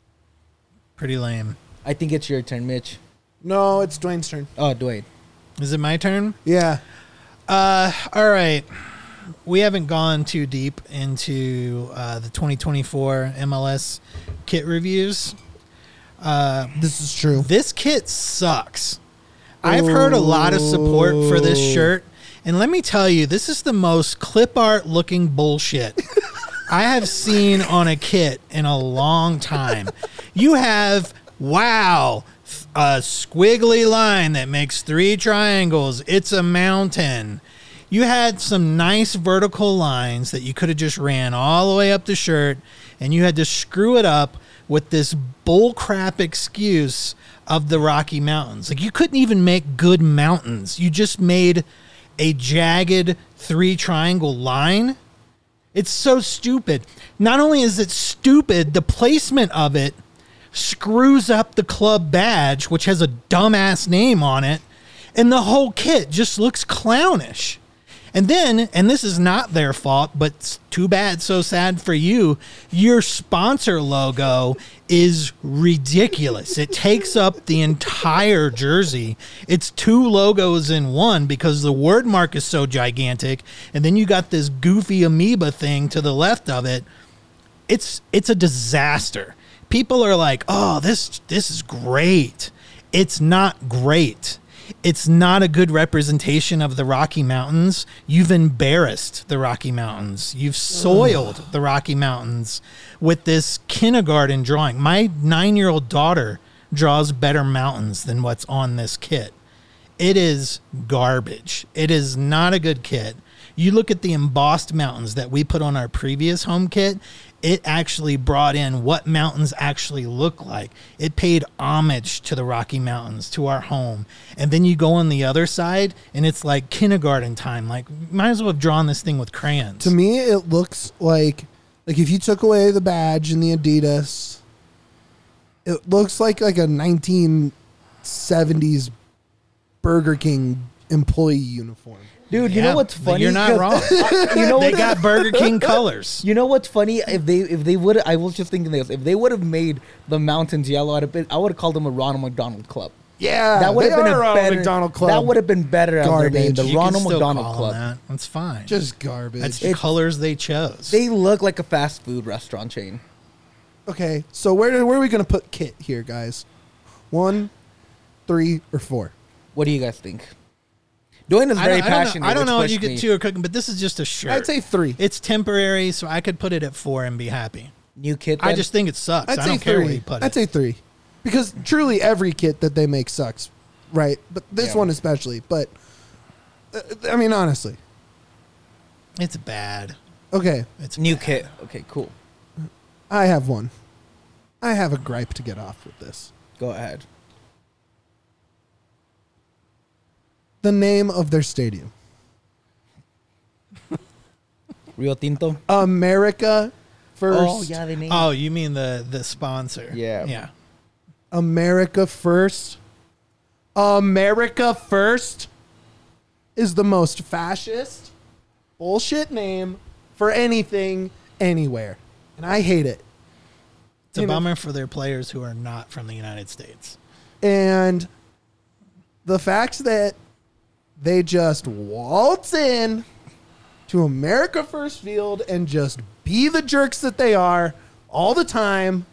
Pretty lame. I think it's your turn, Mitch. No, it's Dwayne's turn. Oh, Dwayne. Is it my turn? Yeah. Uh, all right. We haven't gone too deep into uh, the twenty twenty-four M L S kit reviews. Uh, This is true. this kit sucks. I've heard a lot of support for this shirt, and let me tell you, this is the most clip art looking bullshit I have seen on a kit in a long time. You have, wow, a squiggly line that makes three triangles. It's a mountain. You had some nice vertical lines that you could have just ran all the way up the shirt, and you had to screw it up with this bullcrap excuse of the Rocky Mountains. Like, you couldn't even make good mountains. You just made a jagged three triangle line. It's so stupid. Not only is it stupid, the placement of it screws up the club badge, which has a dumbass name on it, and the whole kit just looks clownish. And then, and this is not their fault, but it's too bad, so sad for you, your sponsor logo is ridiculous. It takes up the entire jersey. It's two logos in one because the word mark is so gigantic, and then you got this goofy amoeba thing to the left of it. It's it's a disaster. People are like, "Oh, this this is great." It's not great. It's not a good representation of the Rocky Mountains. You've embarrassed the Rocky Mountains. You've soiled Ugh. the Rocky Mountains with this kindergarten drawing. My nine-year-old daughter draws better mountains than what's on this kit. It is garbage. It is not a good kit. You look at the embossed mountains that we put on our previous home kit, it actually brought in what mountains actually look like. It paid homage to the Rocky Mountains, to our home. And then you go on the other side, and it's like kindergarten time. Like, might as well have drawn this thing with crayons. To me, it looks like like if you took away the badge and the Adidas, It looks like like a nineteen seventies Burger King employee uniform. Dude, you Yeah, know what's but funny? You're not 'Cause- wrong. You know They what- got Burger King colors. You know what's funny? If they if they would, I was just thinking this. If they would have made the mountains yellow, I'd have been, I would have called them a Ronald McDonald Club. Yeah, That would they have been are a Ronald better McDonald Club. That would have been better as their name, Garbage. the You can Ronald still McDonald call Club. them that. That's fine. just garbage. That's the It's- colors they chose. They look like a fast food restaurant chain. Okay, so where where are we gonna put Kit here, guys? One, three, or four? What do you guys think? Dwayne is I very don't, I don't passionate. know, I don't which know what you pushed get me. two are cooking, but this is just a shirt. I'd say three. It's temporary, so I could put it at four and be happy. New kid. I then? just think it sucks. I'd I say don't care where three. you put I'd it. say three, because truly every kit that they make sucks, right? But this Yeah. one especially. But uh, I mean, honestly, It's bad. okay. It's new bad. kit. Okay, cool. I have one. I have a gripe to get off with this. Go ahead. The name of their stadium, Rio Tinto. America First. Oh yeah, they named. Oh, you mean the the sponsor? Yeah. Yeah. America First. America First is the most fascist bullshit name for anything anywhere. And I hate it. It's a You know- bummer for their players who are not from the United States. And the fact that they just waltz in to America First Field and just be the jerks that they are all the time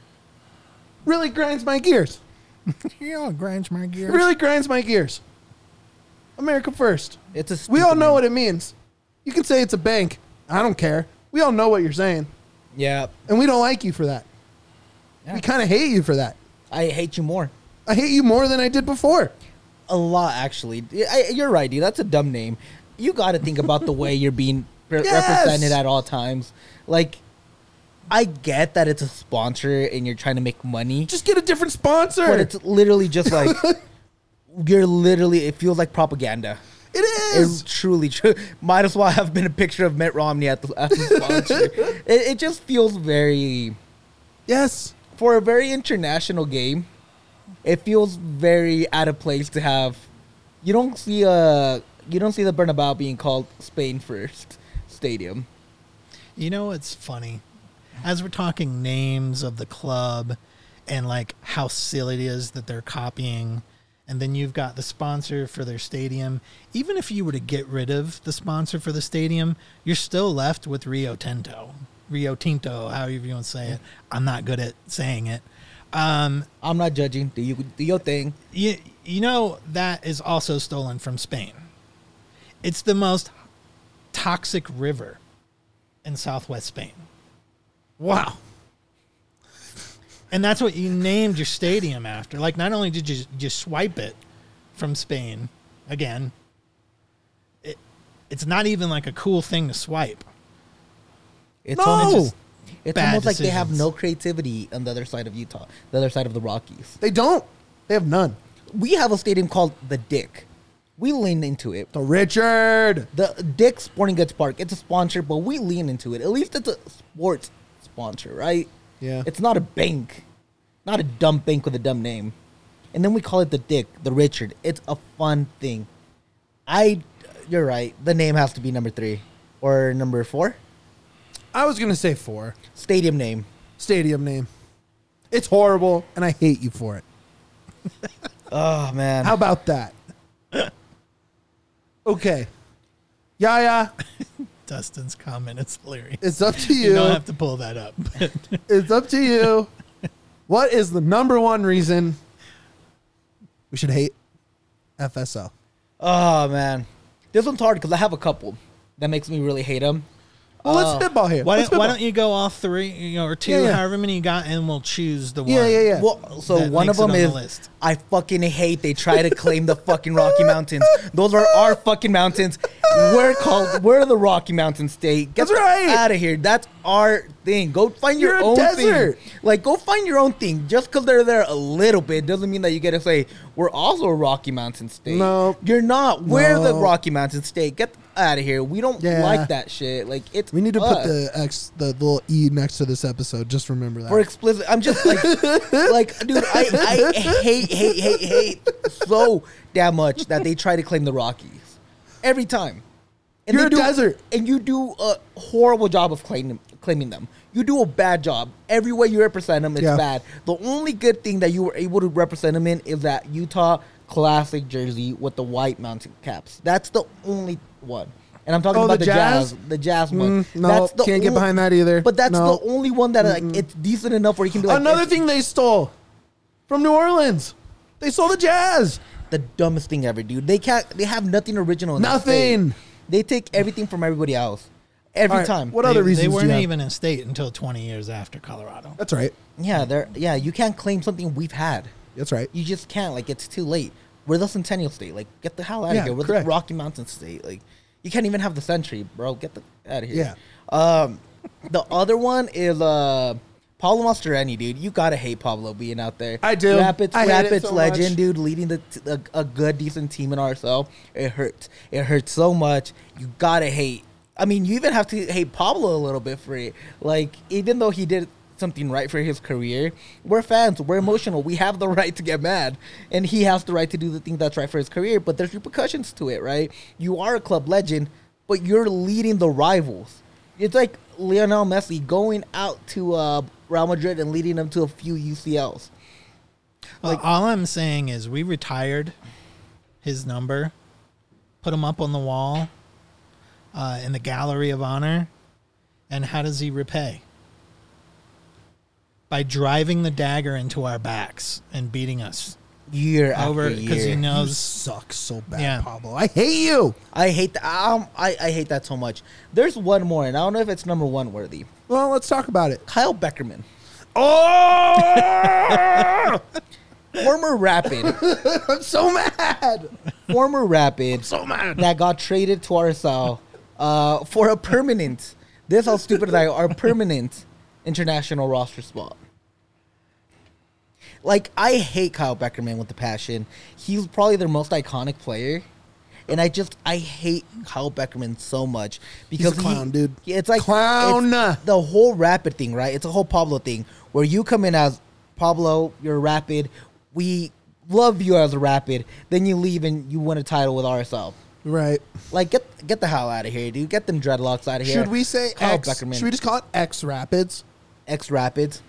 really grinds my gears. You know, it grinds my It gears. really grinds my gears. America First. It's a. We all stupid know name. what it means. You can say it's a bank. I don't care. We all know what you're saying. Yeah. And we don't like you for that. Yeah. We kind of hate you for that. I hate you more. I hate you more than I did before. A lot, actually. I, you're right, dude. That's a dumb name. You got to think about the way you're being re- Yes! represented at all times. Like, I get that it's a sponsor and you're trying to make money, Just get a different sponsor. but it's literally just like you're literally. It feels like propaganda. it is. It's truly true. Might as well have been a picture of Mitt Romney at the, as the sponsor. it, it just feels very, yes. for a very international game. It feels very out of place to have. You don't see a. You don't see the Bernabeu being called Spain First Stadium. You know what's funny? As we're talking names of the club and like how silly it is that they're copying, and then you've got the sponsor for their stadium. Even if you were to get rid of the sponsor for the stadium, you're still left with Rio Tinto. Rio Tinto, however you want to say it. I'm not good at saying it. Um, I'm not judging. Do you do your thing? you, you know, that is also stolen from Spain. It's the most toxic river in southwest Spain. Wow. And that's what you named your stadium after. Like, not only did you just swipe it from Spain, again, it, it's not even like a cool thing to swipe. It's No! almost, it's Bad almost like they have decisions. no creativity on the other side of Utah, the other side of the Rockies. They don't. They have none. We have a stadium called the Dick. We lean into it. The Richard. The Dick Sporting Goods Park. It's a sponsor, but we lean into it. At least it's a sports sponsor, right? Yeah. It's not a bank, not a dumb bank with a dumb name. And then we call it the Dick, the Richard. It's a fun thing. I, you're right. The name has to be number three or number four. I was going to say four. Stadium name. Stadium name. It's horrible, and I hate you for it. Oh man. How about that? Okay. Yaya, Dustin's comment is hilarious. it's up to You you. don't have to pull that up. It's up to you. What is the number one reason we should hate F S L? Oh man. This one's hard because I have a couple that makes me really hate them. Well, let's Oh. spitball here. why, Let's don't, why spitball. don't you go all three, you know, or two, Yeah, yeah. however many you got, and we'll choose the one. Yeah, yeah, yeah. Well, so That one of makes it them on the is list. I fucking hate they try to claim the fucking Rocky Mountains. Those are our fucking mountains. We're called we're the Rocky Mountain State. Get That's right. out of here. That's our thing. Go find your You're a own desert. thing. Like go find your own thing. Just because they're there a little bit doesn't mean that you get to say we're also a Rocky Mountain State. No. you're not. We're the No. Rocky Mountain State. Get out of here. We don't Yeah. like that shit. Like it's We need to us. put the X, the little E next to this episode. Just remember that. for explicit. I'm just like, like, dude, I, I hate, hate, hate, hate so damn much that they try to claim the Rockies every time. And You're they a do, desert. and you do a horrible job of claiming claiming them. You do a bad job. Every way you represent them, it's Yeah. bad. The only good thing that you were able to represent them in is that Utah classic jersey with the white mountain caps. That's the only one. And I'm talking Oh, about the the, Jazz? jazz? the Jazz one. Mm, no, that's the can't get only- behind that either. But that's No. the only one that like it's decent enough where you can be like Another it's thing they stole from New Orleans. They stole the Jazz. the dumbest thing ever, dude. They can't. They have nothing original. In that Nothing. state. They take everything from everybody else every All right, time. What they, other reasons they do weren't you have? even in state until twenty years after Colorado. That's right. Yeah, they're yeah. You can't claim something we've had. That's right. You just can't. Like it's too late. We're the Centennial State. Like get the hell out Yeah, of here. We're correct. the Rocky Mountain State. Like you can't even have the Century, bro. Get the out of here. Yeah. Um, the other one is uh. Pablo Mastroeni, dude, you gotta hate Pablo being out there. I do. Rapids, I hate it Rapids so legend, much. dude, leading the t- a, a good, decent team in R S L. It hurts. It hurts so much. You gotta hate. I mean, you even have to hate Pablo a little bit for it. Like, even though he did something right for his career, we're fans. We're emotional. We have the right to get mad, and he has the right to do the thing that's right for his career. But there's repercussions to it, right? You are a club legend, but you're leading the rivals. It's like Lionel Messi going out to uh, Real Madrid and leading them to a few U C Ls. Like, all I'm saying is we retired his number, put him up on the wall uh, in the gallery of honor, and how does he repay? By driving the dagger into our backs and beating us Year over after because he year. You knows. suck so bad, Yeah. Pablo. I hate you. I hate that. Um, I, I hate that so much. There's one more, and I don't know if it's number one worthy. Well, let's talk about it. Kyle Beckerman, Oh! former Rapid, I'm so mad. former Rapid, So mad. that got traded to R S L uh, for a permanent. This how stupid they are. Permanent international roster spot. Like, I hate Kyle Beckerman with the passion. He's probably their most iconic player. And I just, I hate Kyle Beckerman so much. Because He's a clown, he, dude. It's like, Clown. it's the whole Rapid thing, right? It's a whole Pablo thing. Where you come in as, Pablo, you're Rapid. We love you as a Rapid. Then you leave and you win a title with R S L. Right. Like, get get the hell out of here, dude. Get them dreadlocks out of here. Should we say Kyle X? Beckerman. Should we just call it X Rapids? X Rapids.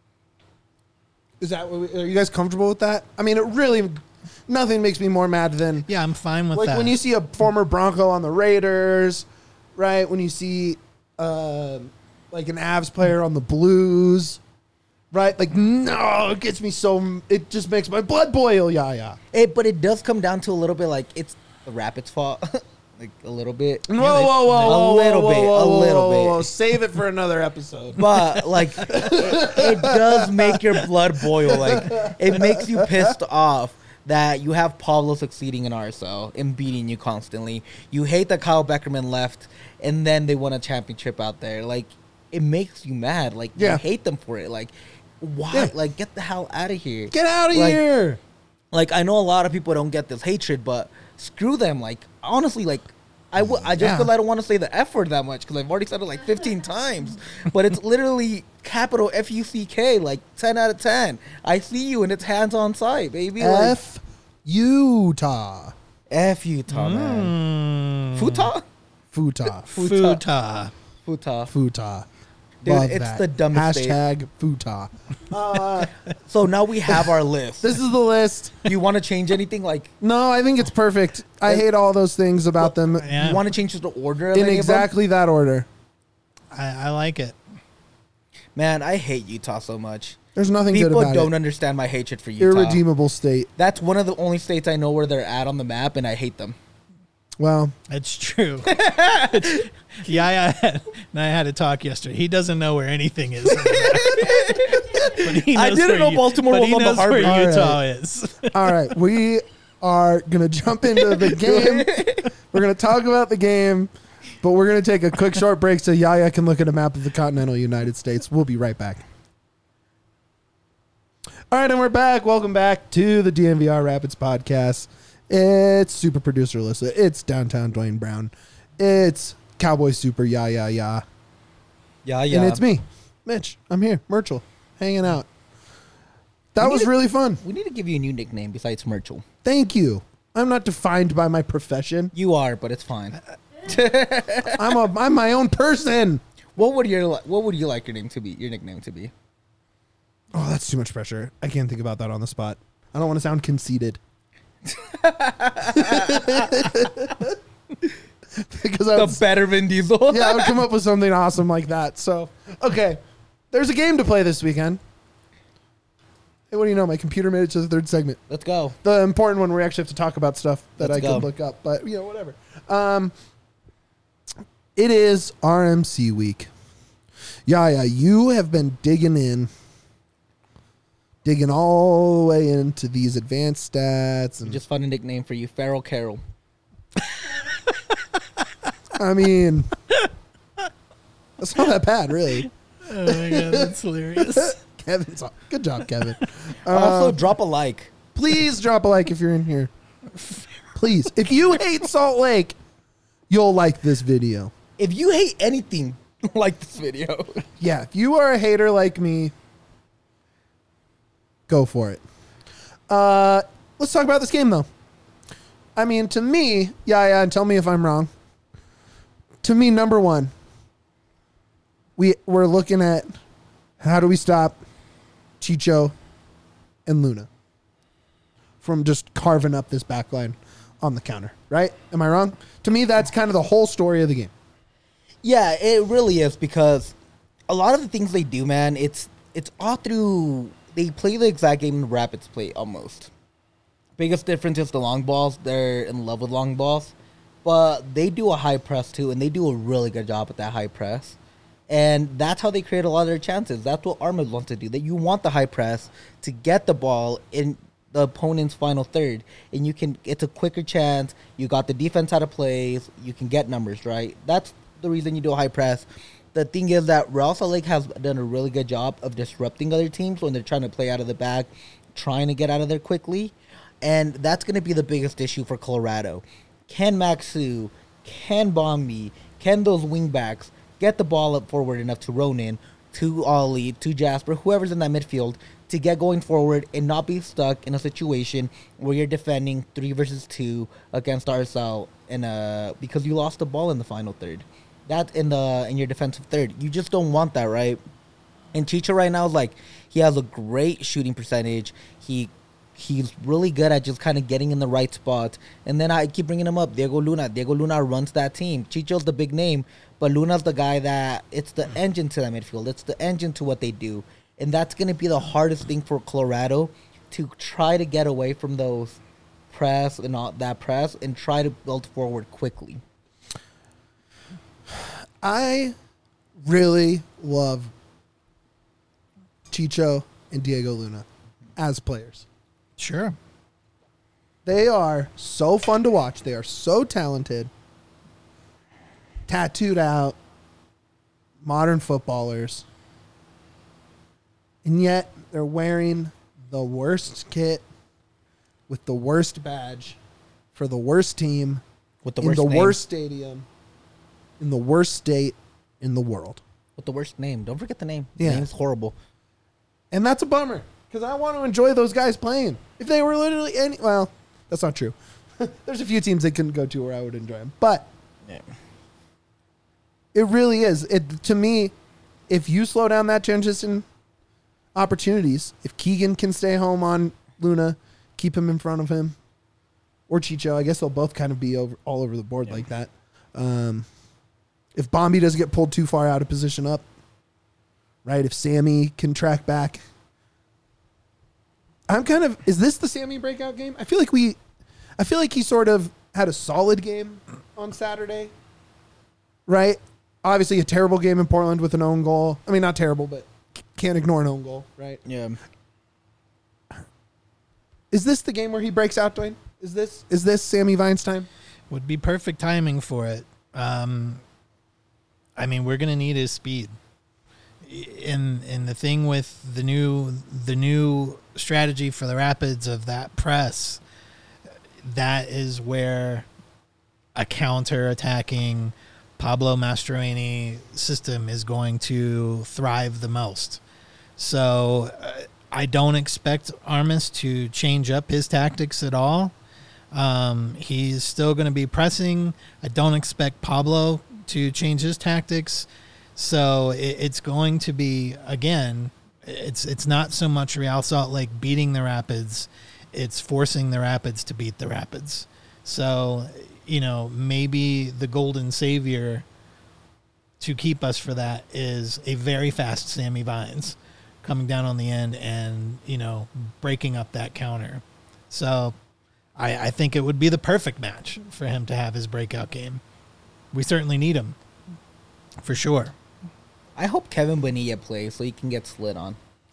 Is that what we, are you guys comfortable with that? I mean, it really nothing makes me more mad than Yeah, I'm fine with like that. when you see a former Bronco on the Raiders, right? When you see uh, like an Avs player on the Blues, right? Like, no, it gets me so. It just makes my blood boil. Yeah, yeah. It, but it does come down to a little bit like it's the Rapids' fault, like a little bit. Whoa, whoa, whoa, whoa, A whoa, little whoa, bit, whoa, a whoa, little whoa, whoa. bit. Save it for another episode. But like, it, it does make your blood boil. Like, it makes you pissed off that you have Pablo succeeding in R S L and beating you constantly. You hate that Kyle Beckerman left, and then they won a championship out there. Like, it makes you mad. Like, Yeah. you hate them for it. Like, why? Yeah. Like, get the hell out of here. Get out of Like, here. Like, I know a lot of people don't get this hatred, but screw them. Like, honestly, like, I, w- I just Yeah. because I don't want to say the F word that much because I've already said it like fifteen times. But it's literally capital F U C K, like ten out of ten. I see you and it's hands on sight, baby. Like, F Utah. F Utah, man. Mm, Futa? Futa. Futa. Futa. Futa. Dude, Love it's that. the dumbest Hashtag Futa. Uh, So now we have our list. this is the list. Do you want to change anything? Like, No, I think it's perfect. I hate all those things about them Yeah. you want to change the order of in any of them? exactly that order. I, I like it. Man, I hate Utah so much. There's nothing good People about don't it. understand my hatred for Utah. Irredeemable state. That's one of the only states I know where they're at on the map, and I hate them. Well, It's true. yeah, I had, and I had to talk yesterday. He doesn't know where anything is. But he I knows didn't where know U- Baltimore but was he on the knows where harbor. Utah All right. is. all right. We are going to jump into the game. We're going to talk about the game, but we're going to take a quick short break so Yaya can look at a map of the continental United States. We'll be right back. All right, and we're back. Welcome back to the D N V R Rapids podcast. It's super producer Alyssa. It's downtown Dwayne Brown. It's Cowboy Super, yeah, yeah, yeah. Yeah, yeah. And it's me, Mitch. I'm here, Myrtle, hanging out. That We was need to- really fun. We need to give you a new nickname besides Myrtle. Thank you. I'm not defined by my profession. You are, but it's fine. I'm a I'm my own person. What would your li- What would you like your name to be? Your nickname to be? Oh, that's too much pressure. I can't think about that on the spot. I don't want to sound conceited. Because I The would, better Vin Diesel. yeah, I would come up with something awesome like that. So, okay, there's a game to play this weekend. Hey, what do you know? My computer made it to the third segment. Let's go. The important one where we actually have to talk about stuff that Let's I go. could look up, but you know, whatever. Um, it is R M C week. Yeah, yeah, you have been digging in, digging all the way into these advanced stats, We and just found a nickname for you, Feral Carol. I mean, that's not that bad, really. Oh my god, that's hilarious. Kevin's good job, Kevin. also, Uh, drop a like. please drop a like if you're in here. Please, if you hate Salt Lake, you'll like this video. If you hate anything, like this video. Yeah, if you are a hater like me, go for it. Uh, let's talk about this game, though. I mean, to me, yeah, yeah, and tell me if I'm wrong. To me, number one, we, we're looking at how do we stop Chicho and Luna from just carving up this backline on the counter, right? Am I wrong? To me, that's kind of the whole story of the game. Yeah, it really is, because a lot of the things they do, man, it's it's all through. They play the exact game the Rapids play almost. Biggest difference is the long balls. They're in love with long balls, but they do a high press too, and they do a really good job at that high press. And that's how they create a lot of their chances. That's what Armad wants to do. That you want the high press to get the ball in the opponent's final third, and you can. It's a quicker chance. You got the defense out of plays. You can get numbers right. That's the reason you do a high press. The thing is that Real Salt Lake has done a really good job of disrupting other teams when they're trying to play out of the back, trying to get out of there quickly, and that's going to be the biggest issue for Colorado. Can Maxu, can Bombi, can those wingbacks get the ball up forward enough to Ronan, to Ollie, to Jasper, whoever's in that midfield, to get going forward and not be stuck in a situation where you're defending three versus two against R S L in a, because you lost the ball in the final third. That's in the in your defensive third. You just don't want that, right? And Chicho right now is like, he has a great shooting percentage. He he's really good at just kind of getting in the right spots. And then I keep bringing him up. Diego Luna. Diego Luna runs that team. Chicho's the big name, but Luna's the guy that, it's the engine to that midfield. It's the engine to what they do. And that's going to be the hardest thing for Colorado, to try to get away from those press and all that press and try to build forward quickly. I really love Chicho and Diego Luna as players. Sure. They are so fun to watch. They are so talented, tattooed out, modern footballers. And yet they're wearing the worst kit with the worst badge for the worst team With the in worst the name. worst stadium in the worst state in the world. With the worst name. Don't forget the name. Yeah. The name's horrible. And that's a bummer because I want to enjoy those guys playing. If they were literally any, well, that's not true. There's a few teams they couldn't go to where I would enjoy them, but Yeah. it really is. It to me, if you slow down that transition opportunities, if Keegan can stay home on Luna, keep him in front of him, or Chicho, I guess they'll both kind of be over all over the board Yeah. like that. Um, if Bombi doesn't get pulled too far out of position up, right? If Sammy can track back. I'm kind of, is this the Sammy breakout game? I feel like we, I feel like he sort of had a solid game on Saturday, right? Obviously a terrible game in Portland with an own goal. I mean, not terrible, but can't ignore an own goal, right? Yeah. Is this the game where he breaks out, Dwayne? Is this, is this Sammy Vines time? Would be perfect timing for it. Um, I mean, we're gonna need his speed. In in the thing with the new the new strategy for the Rapids of that press, that is where a counter-attacking Pablo Mastroeni system is going to thrive the most. So uh, I don't expect Armas to change up his tactics at all. Um, he's still going to be pressing. I don't expect Pablo to change his tactics. So it, it's going to be, again, it's it's not so much Real Salt Lake beating the Rapids. It's forcing the Rapids to beat the Rapids. So, you know, maybe the golden savior to keep us for that is a very fast Sammy Vines coming down on the end and, you know, breaking up that counter. So I, I think it would be the perfect match for him to have his breakout game. We certainly need him, for sure. I hope Kevin Bonilla plays so he can get slid on.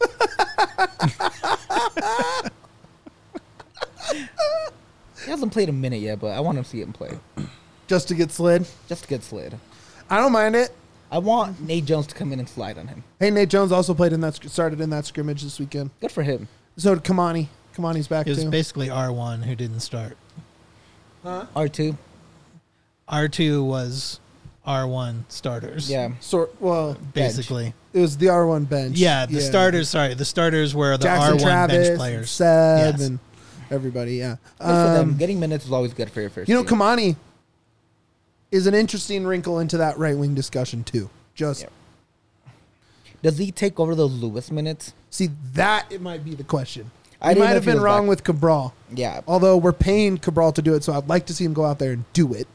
He hasn't played a minute yet, but I want to see him play. Just to get slid? Just to get slid. I don't mind it. I want Nate Jones to come in and slide on him. Hey, Nate Jones also played in that, started in that scrimmage this weekend. Good for him. So did Kamani. Kamani's back It was too. basically R one who didn't start. Huh? R two. R two was R one starters. Yeah. Sort well, Basically. it was the R one bench. Yeah, the starters, sorry, the starters were the Jackson R one Travis, bench players. Seb, Yes. and everybody. Yeah. Good for them. Um, Getting minutes is always good for your first you know, team. Kamani is an interesting wrinkle into that right wing discussion too. Just Yep. Does he take over those Lewis minutes? see that it might be the question. I I didn't might know have if he been was wrong back. with Cabral. Yeah. Although we're paying Cabral to do it, so I'd like to see him go out there and do it.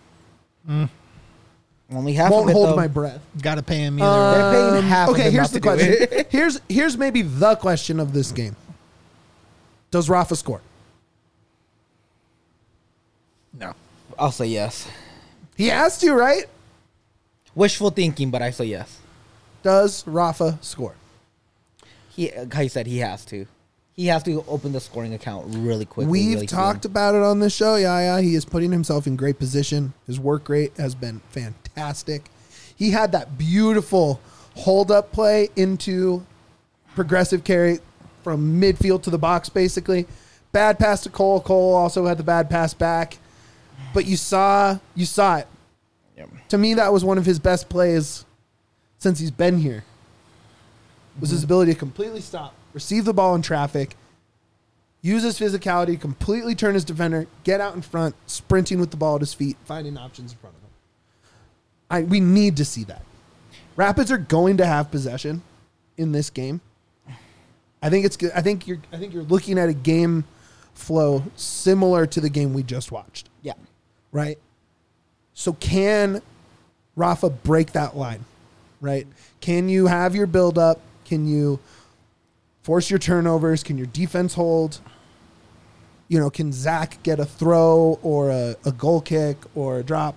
Only half Won't of it, hold though. my breath. Got to pay him either way. They're paying Um, half of okay, him here's not the to do question. it. here's here's maybe the question of this game. Does Rafa score? No. I'll say yes. He has to, right? Wishful thinking, but I say yes. Does Rafa score? He, like I said, he has to. He has to open the scoring account really quickly. We've really talked soon. about it on this show. Yeah, yeah. He is putting himself in great position. His work rate has been fantastic. He had that beautiful hold up play into progressive carry from midfield to the box, basically. Bad pass to Cole. Cole also had the bad pass back. But you saw you saw it. Yep. To me, that was one of his best plays since he's been here. Was his ability to completely stop, receive the ball in traffic, use his physicality, completely turn his defender, get out in front, sprinting with the ball at his feet, finding options in front of him. I we need to see that. Rapids are going to have possession in this game. I think it's good. I think you're I think you're looking at a game flow similar to the game we just watched. Yeah. Right? So can Rafa break that line? Right? Can you have your build up? Can you force your turnovers? Can your defense hold? You know, can Zach get a throw or a, a goal kick or a drop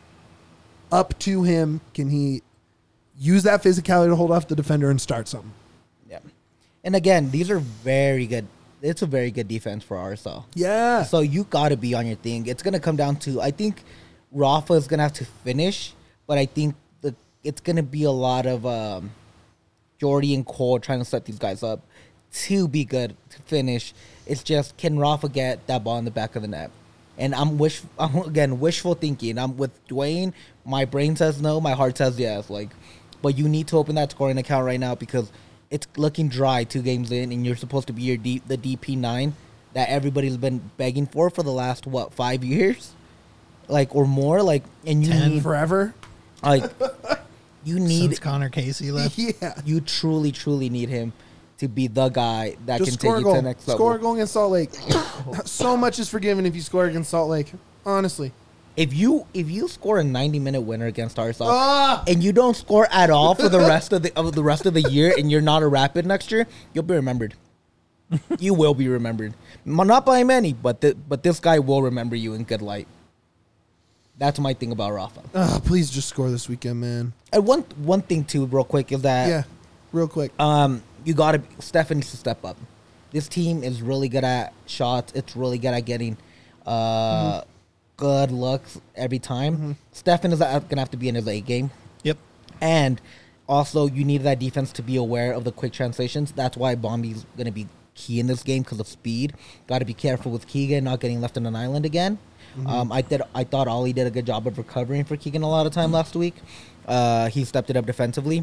up to him? Can he use that physicality to hold off the defender and start something? Yeah. And again, these are very good. It's a very good defense for R S L. Yeah. So you got to be on your thing. It's going to come down to, I think Rafa is going to have to finish, but I think the it's going to be a lot of um, Jordy and Cole trying to set these guys up to be good, to finish. It's just, can Rafa get that ball in the back of the net? And I'm wish I'm again wishful thinking. I'm with Dwayne. My brain says no. My heart says yes. Like, but you need to open that scoring account right now because it's looking dry two games in, and you're supposed to be your D, the D P nine that everybody's been begging for for the last what five years, like or more. Like, and you Ten need Forever? like you need Since Connor Casey left. Yeah. you truly truly need him to be the guy that Just can score take a you to goal. the next level. Score a goal against Salt Lake. So much is forgiven if you score against Salt Lake. Honestly. If you if you score a ninety minute winner against R S L Ah! and you don't score at all for the rest of the of the rest of the year, and you're not a Rapid next year, you'll be remembered. You will be remembered. Not by many, but th- but this guy will remember you in good light. That's my thing about Rafa. Ah, please just score this weekend, man. And one one thing too, real quick, is that Yeah. Real quick. um you gotta Stefan needs to step up. This team is really good at shots. It's really good at getting uh, mm-hmm. good looks every time. Mm-hmm. Stefan is gonna have to be in his A game. Yep. And also, you need that defense to be aware of the quick translations. That's why Bombi's gonna be key in this game because of speed. Got to be careful with Keegan not getting left on an island again. Mm-hmm. Um, I did. I thought Ollie did a good job of recovering for Keegan a lot of time mm-hmm. last week. Uh, he stepped it up defensively.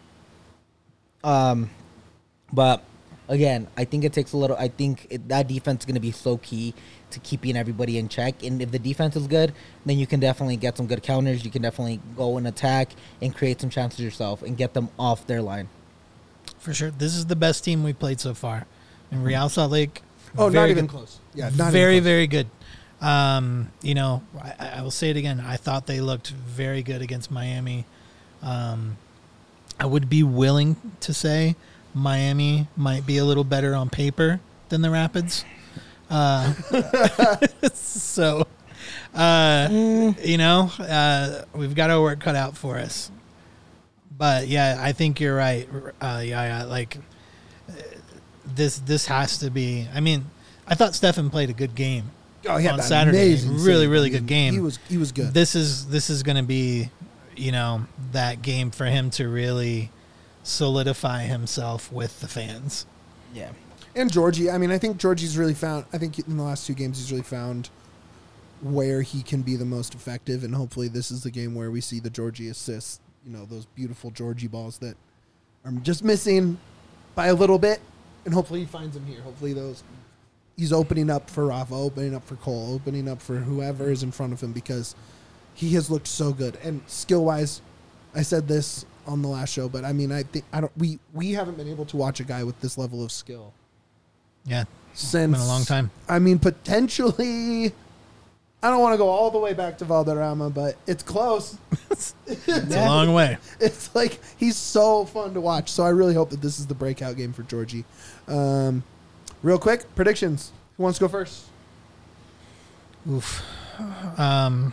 Um, but again, I think it takes a little. I think it, that defense is going to be so key to keeping everybody in check. And if the defense is good, then you can definitely get some good counters. You can definitely go and attack and create some chances yourself and get them off their line. For sure, this is the best team we played so far. In Real Salt Lake. Oh, not even good. close. Yeah, not very, even close. very good. Um, you know, I, I will say it again. I thought they looked very good against Miami. Um, I would be willing to say Miami might be a little better on paper than the Rapids. Uh, so, uh, mm. you know, uh, we've got our work cut out for us. But yeah, I think you're right. Uh, yeah, yeah, like this. This has to be. I mean, I thought Stefan played a good game. Oh, he had on Saturday. Really, really good game. He was. He was good. This is. This is going to be, you know, that game for him to really solidify himself with the fans. Yeah. And Georgie, I mean, I think Georgie's really found, I think in the last two games, he's really found where he can be the most effective. And hopefully this is the game where we see the Georgie assists, you know, those beautiful Georgie balls that are just missing by a little bit. And hopefully he finds them here. Hopefully those, he's opening up for Rafa, opening up for Cole, opening up for whoever is in front of him because he has looked so good. And skill-wise, I said this on the last show, but I mean, I think, I don't, we, we haven't been able to watch a guy with this level of skill. Yeah, since been a long time. I mean, potentially, I don't want to go all the way back to Valderrama, but it's close. It's a long way. It's like he's so fun to watch. So I really hope that this is the breakout game for Georgie. Um, real quick, predictions. Who wants to go first? Oof. Um.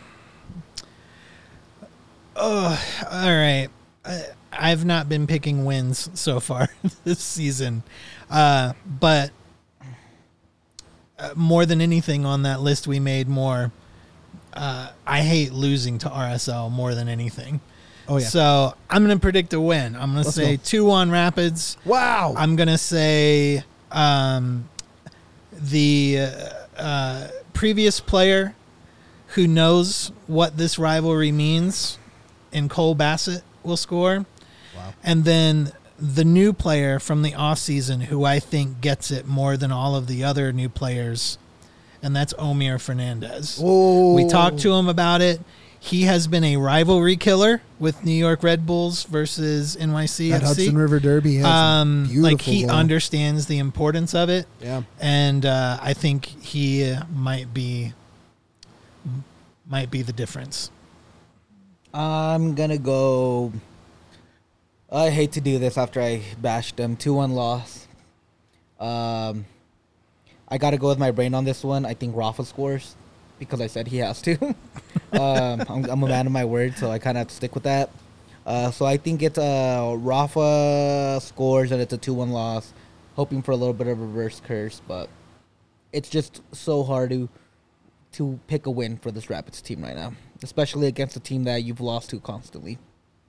Oh, all right. I, I've not been picking wins so far this season, uh, but. Uh, more than anything on that list we made more, uh, I hate losing to R S L more than anything. Oh, yeah. So I'm going to predict a win. I'm going to say two one Rapids. Wow. I'm going to say um, the uh, uh, previous player who knows what this rivalry means in Cole Bassett will score. Wow. And then the new player from the off season who I think gets it more than all of the other new players, and that's Omir Fernandez. Oh. We talked to him about it. He has been a rivalry killer with New York Red Bulls versus N Y C F C. That Hudson River Derby. Um, like he goal. understands the importance of it. Yeah. And uh, I think he uh, might be might be the difference. I'm gonna go. I hate to do this after I bashed them. two one loss. Um, I got to go with my brain on this one. I think Rafa scores because I said he has to. um, I'm, I'm a man of my word, so I kind of have to stick with that. Uh, so I think it's uh, Rafa scores and it's a two one loss. Hoping for a little bit of a reverse curse, but it's just so hard to to pick a win for this Rapids team right now, especially against a team that you've lost to constantly.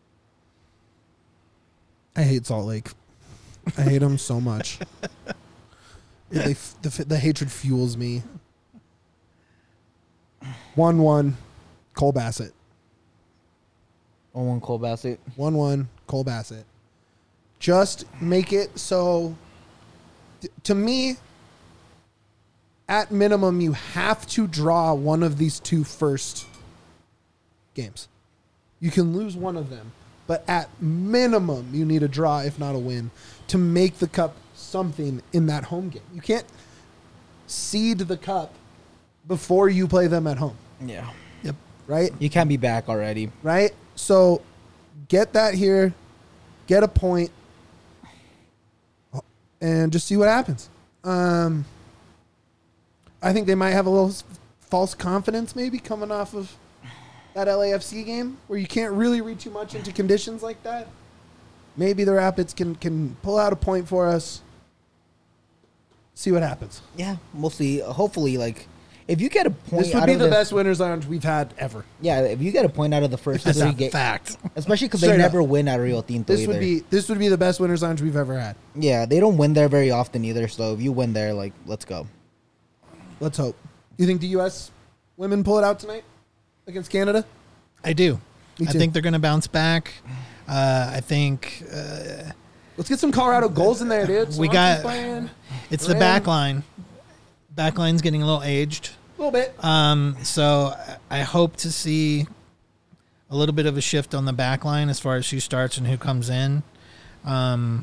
I hate Salt Lake. I hate them so much. It, they, the, the hatred fuels me. one one, Cole Bassett. one one, Cole Bassett. one one, Cole Bassett. Just make it so, th- to me, at minimum, you have to draw one of these two first games. You can lose one of them. But at minimum, you need a draw, if not a win, to make the cup something in that home game. You can't seed the cup before you play them at home. Yeah. Yep. Right? You can't be back already. Right? So get that here, get a point, and just see what happens. Um, I think they might have a little false confidence maybe coming off of that L A F C game where you can't really read too much into conditions like that. Maybe the Rapids can, can pull out a point for us. See what happens. Yeah, mostly, hopefully, like, if you get a point, This would out be of the this, best winners lounge we've had ever. Yeah, if you get a point out of the first That's three a games, fact. especially because they Straight never up. win at Rio Tinto This either. would be this would be the best winners lounge we've ever had. Yeah, they don't win there very often either. So if you win there, like, let's go. Let's hope. You think the U S women pull it out tonight against Canada? I do. Me I too. think they're going to bounce back. Uh, I think uh, Let's get some Colorado goals in there, dude. We Swanson's got- playing it's the Ram. back line. Back line's getting a little aged. a little bit. Um, so I I hope to see a little bit of a shift on the back line as far as who starts and who comes in. Um,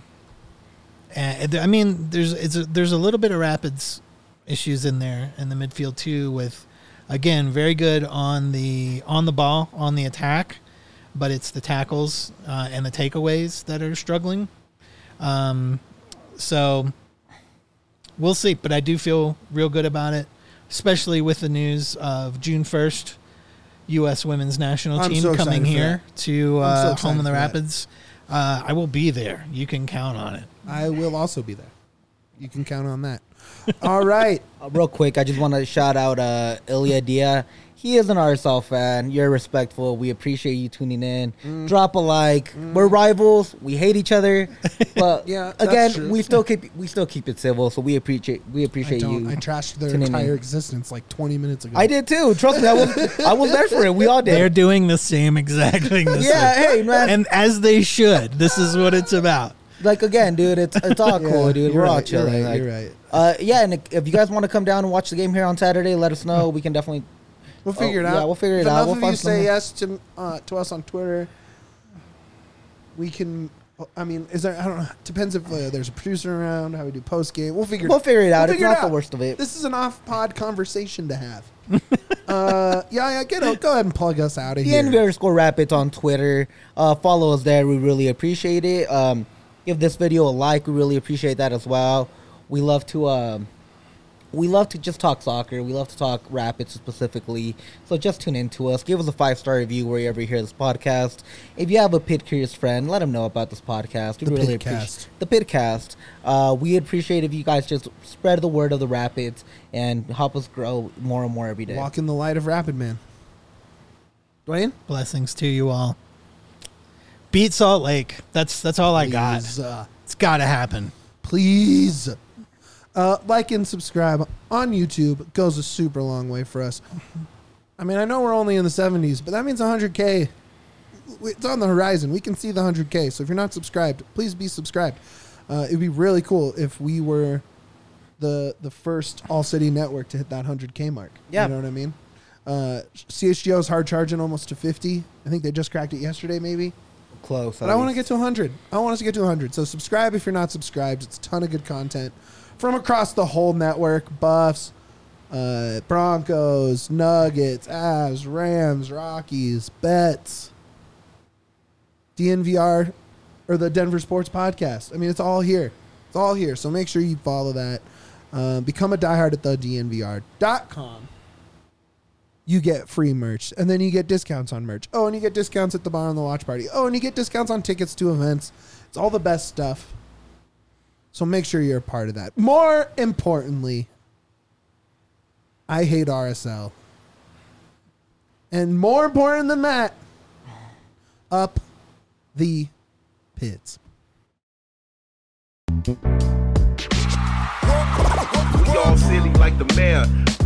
and I mean, there's it's a, there's a little bit of Rapids issues in there in the midfield too. With again, very good on the on the ball on the attack, but it's the tackles uh, and the takeaways that are struggling. Um, so we'll see, but I do feel real good about it, especially with the news of June first, U S women's national I'm team so excited coming for here to I'm so uh, excited home in the for that. Rapids. Uh, I will be there. You can count on it. I will also be there. You can count on that. All right. Uh, real quick, I just want to shout out uh, Ilya Dia. He is an R S L fan. You're respectful. We appreciate you tuning in. Mm. Drop a like. We're rivals. We hate each other, but Yeah, that's again, true. we still keep we still keep it civil. So we appreciate we I appreciate don't. you. I trashed their tuning in. entire existence like twenty minutes ago. I did too. Trust me, I was I was there for it. We all They're did. doing the same exact thing. This Yeah, hey man. and as they should. This is what it's about. Like again, dude, it's it's all Yeah, cool, dude. you're We're all right, you're chilling. right, like- you're right. Uh, yeah, and if you guys want to come down and watch the game here on Saturday, let us know. We can definitely. We'll figure it Oh, out. yeah, we'll figure If it out. enough We'll of find you say something. yes to uh, to us on Twitter, we can. I mean, is there? I don't know. Depends if uh, there's a producer around. How we do post game. We'll figure. We'll figure it out. We'll It's figure not it the out. worst of it. This is an off-pod conversation to have. uh, yeah, yeah. Get out. Go ahead and plug us out of The here. N V underscore Rapids on Twitter. Uh, follow us there. We really appreciate it. Um, give this video a like. We really appreciate that as well. We love to um, we love to just talk soccer. We love to talk Rapids specifically. So just tune in to us. Give us a five star review wherever you hear this podcast. If you have a Pit Curious friend, let them know about this podcast. We The really Pitcast. appreciate the Pitcast. Uh, we appreciate if you guys just spread the word of the Rapids and help us grow more and more every day. Walk in the light of Rapid Man. Dwayne, Blessings to you all. Beat Salt Lake. That's that's all I got. please, uh, It's got to happen. please. Uh, like and subscribe on YouTube. It goes a super long way for us. I mean, I know we're only in the seventies, but that means one hundred K. It's on the horizon. We can see the one hundred K. So if you're not subscribed, please be subscribed. Uh, it'd be really cool if we were the the first All City network to hit that one hundred K mark. Yeah. You know what I mean? Uh, C H G O is hard charging almost to fifty. I think they just cracked it yesterday, maybe. Close. But I want to get to one hundred. I want us to get to one hundred. So subscribe if you're not subscribed. It's a ton of good content from across the whole network. Buffs, uh, Broncos, Nuggets, Avs, Rams, Rockies, bets, D N V R, or the Denver Sports Podcast. I mean, it's all here. It's all here. So make sure you follow that. Um, become a diehard at the D N V R dot com. You get free merch, and then you get discounts on merch. Oh, and you get discounts at the bar on the watch party. Oh, and you get discounts on tickets to events. It's all the best stuff. So make sure you're a part of that. More importantly, I hate R S L. And more important than that, up the pits. We all silly like the mayor.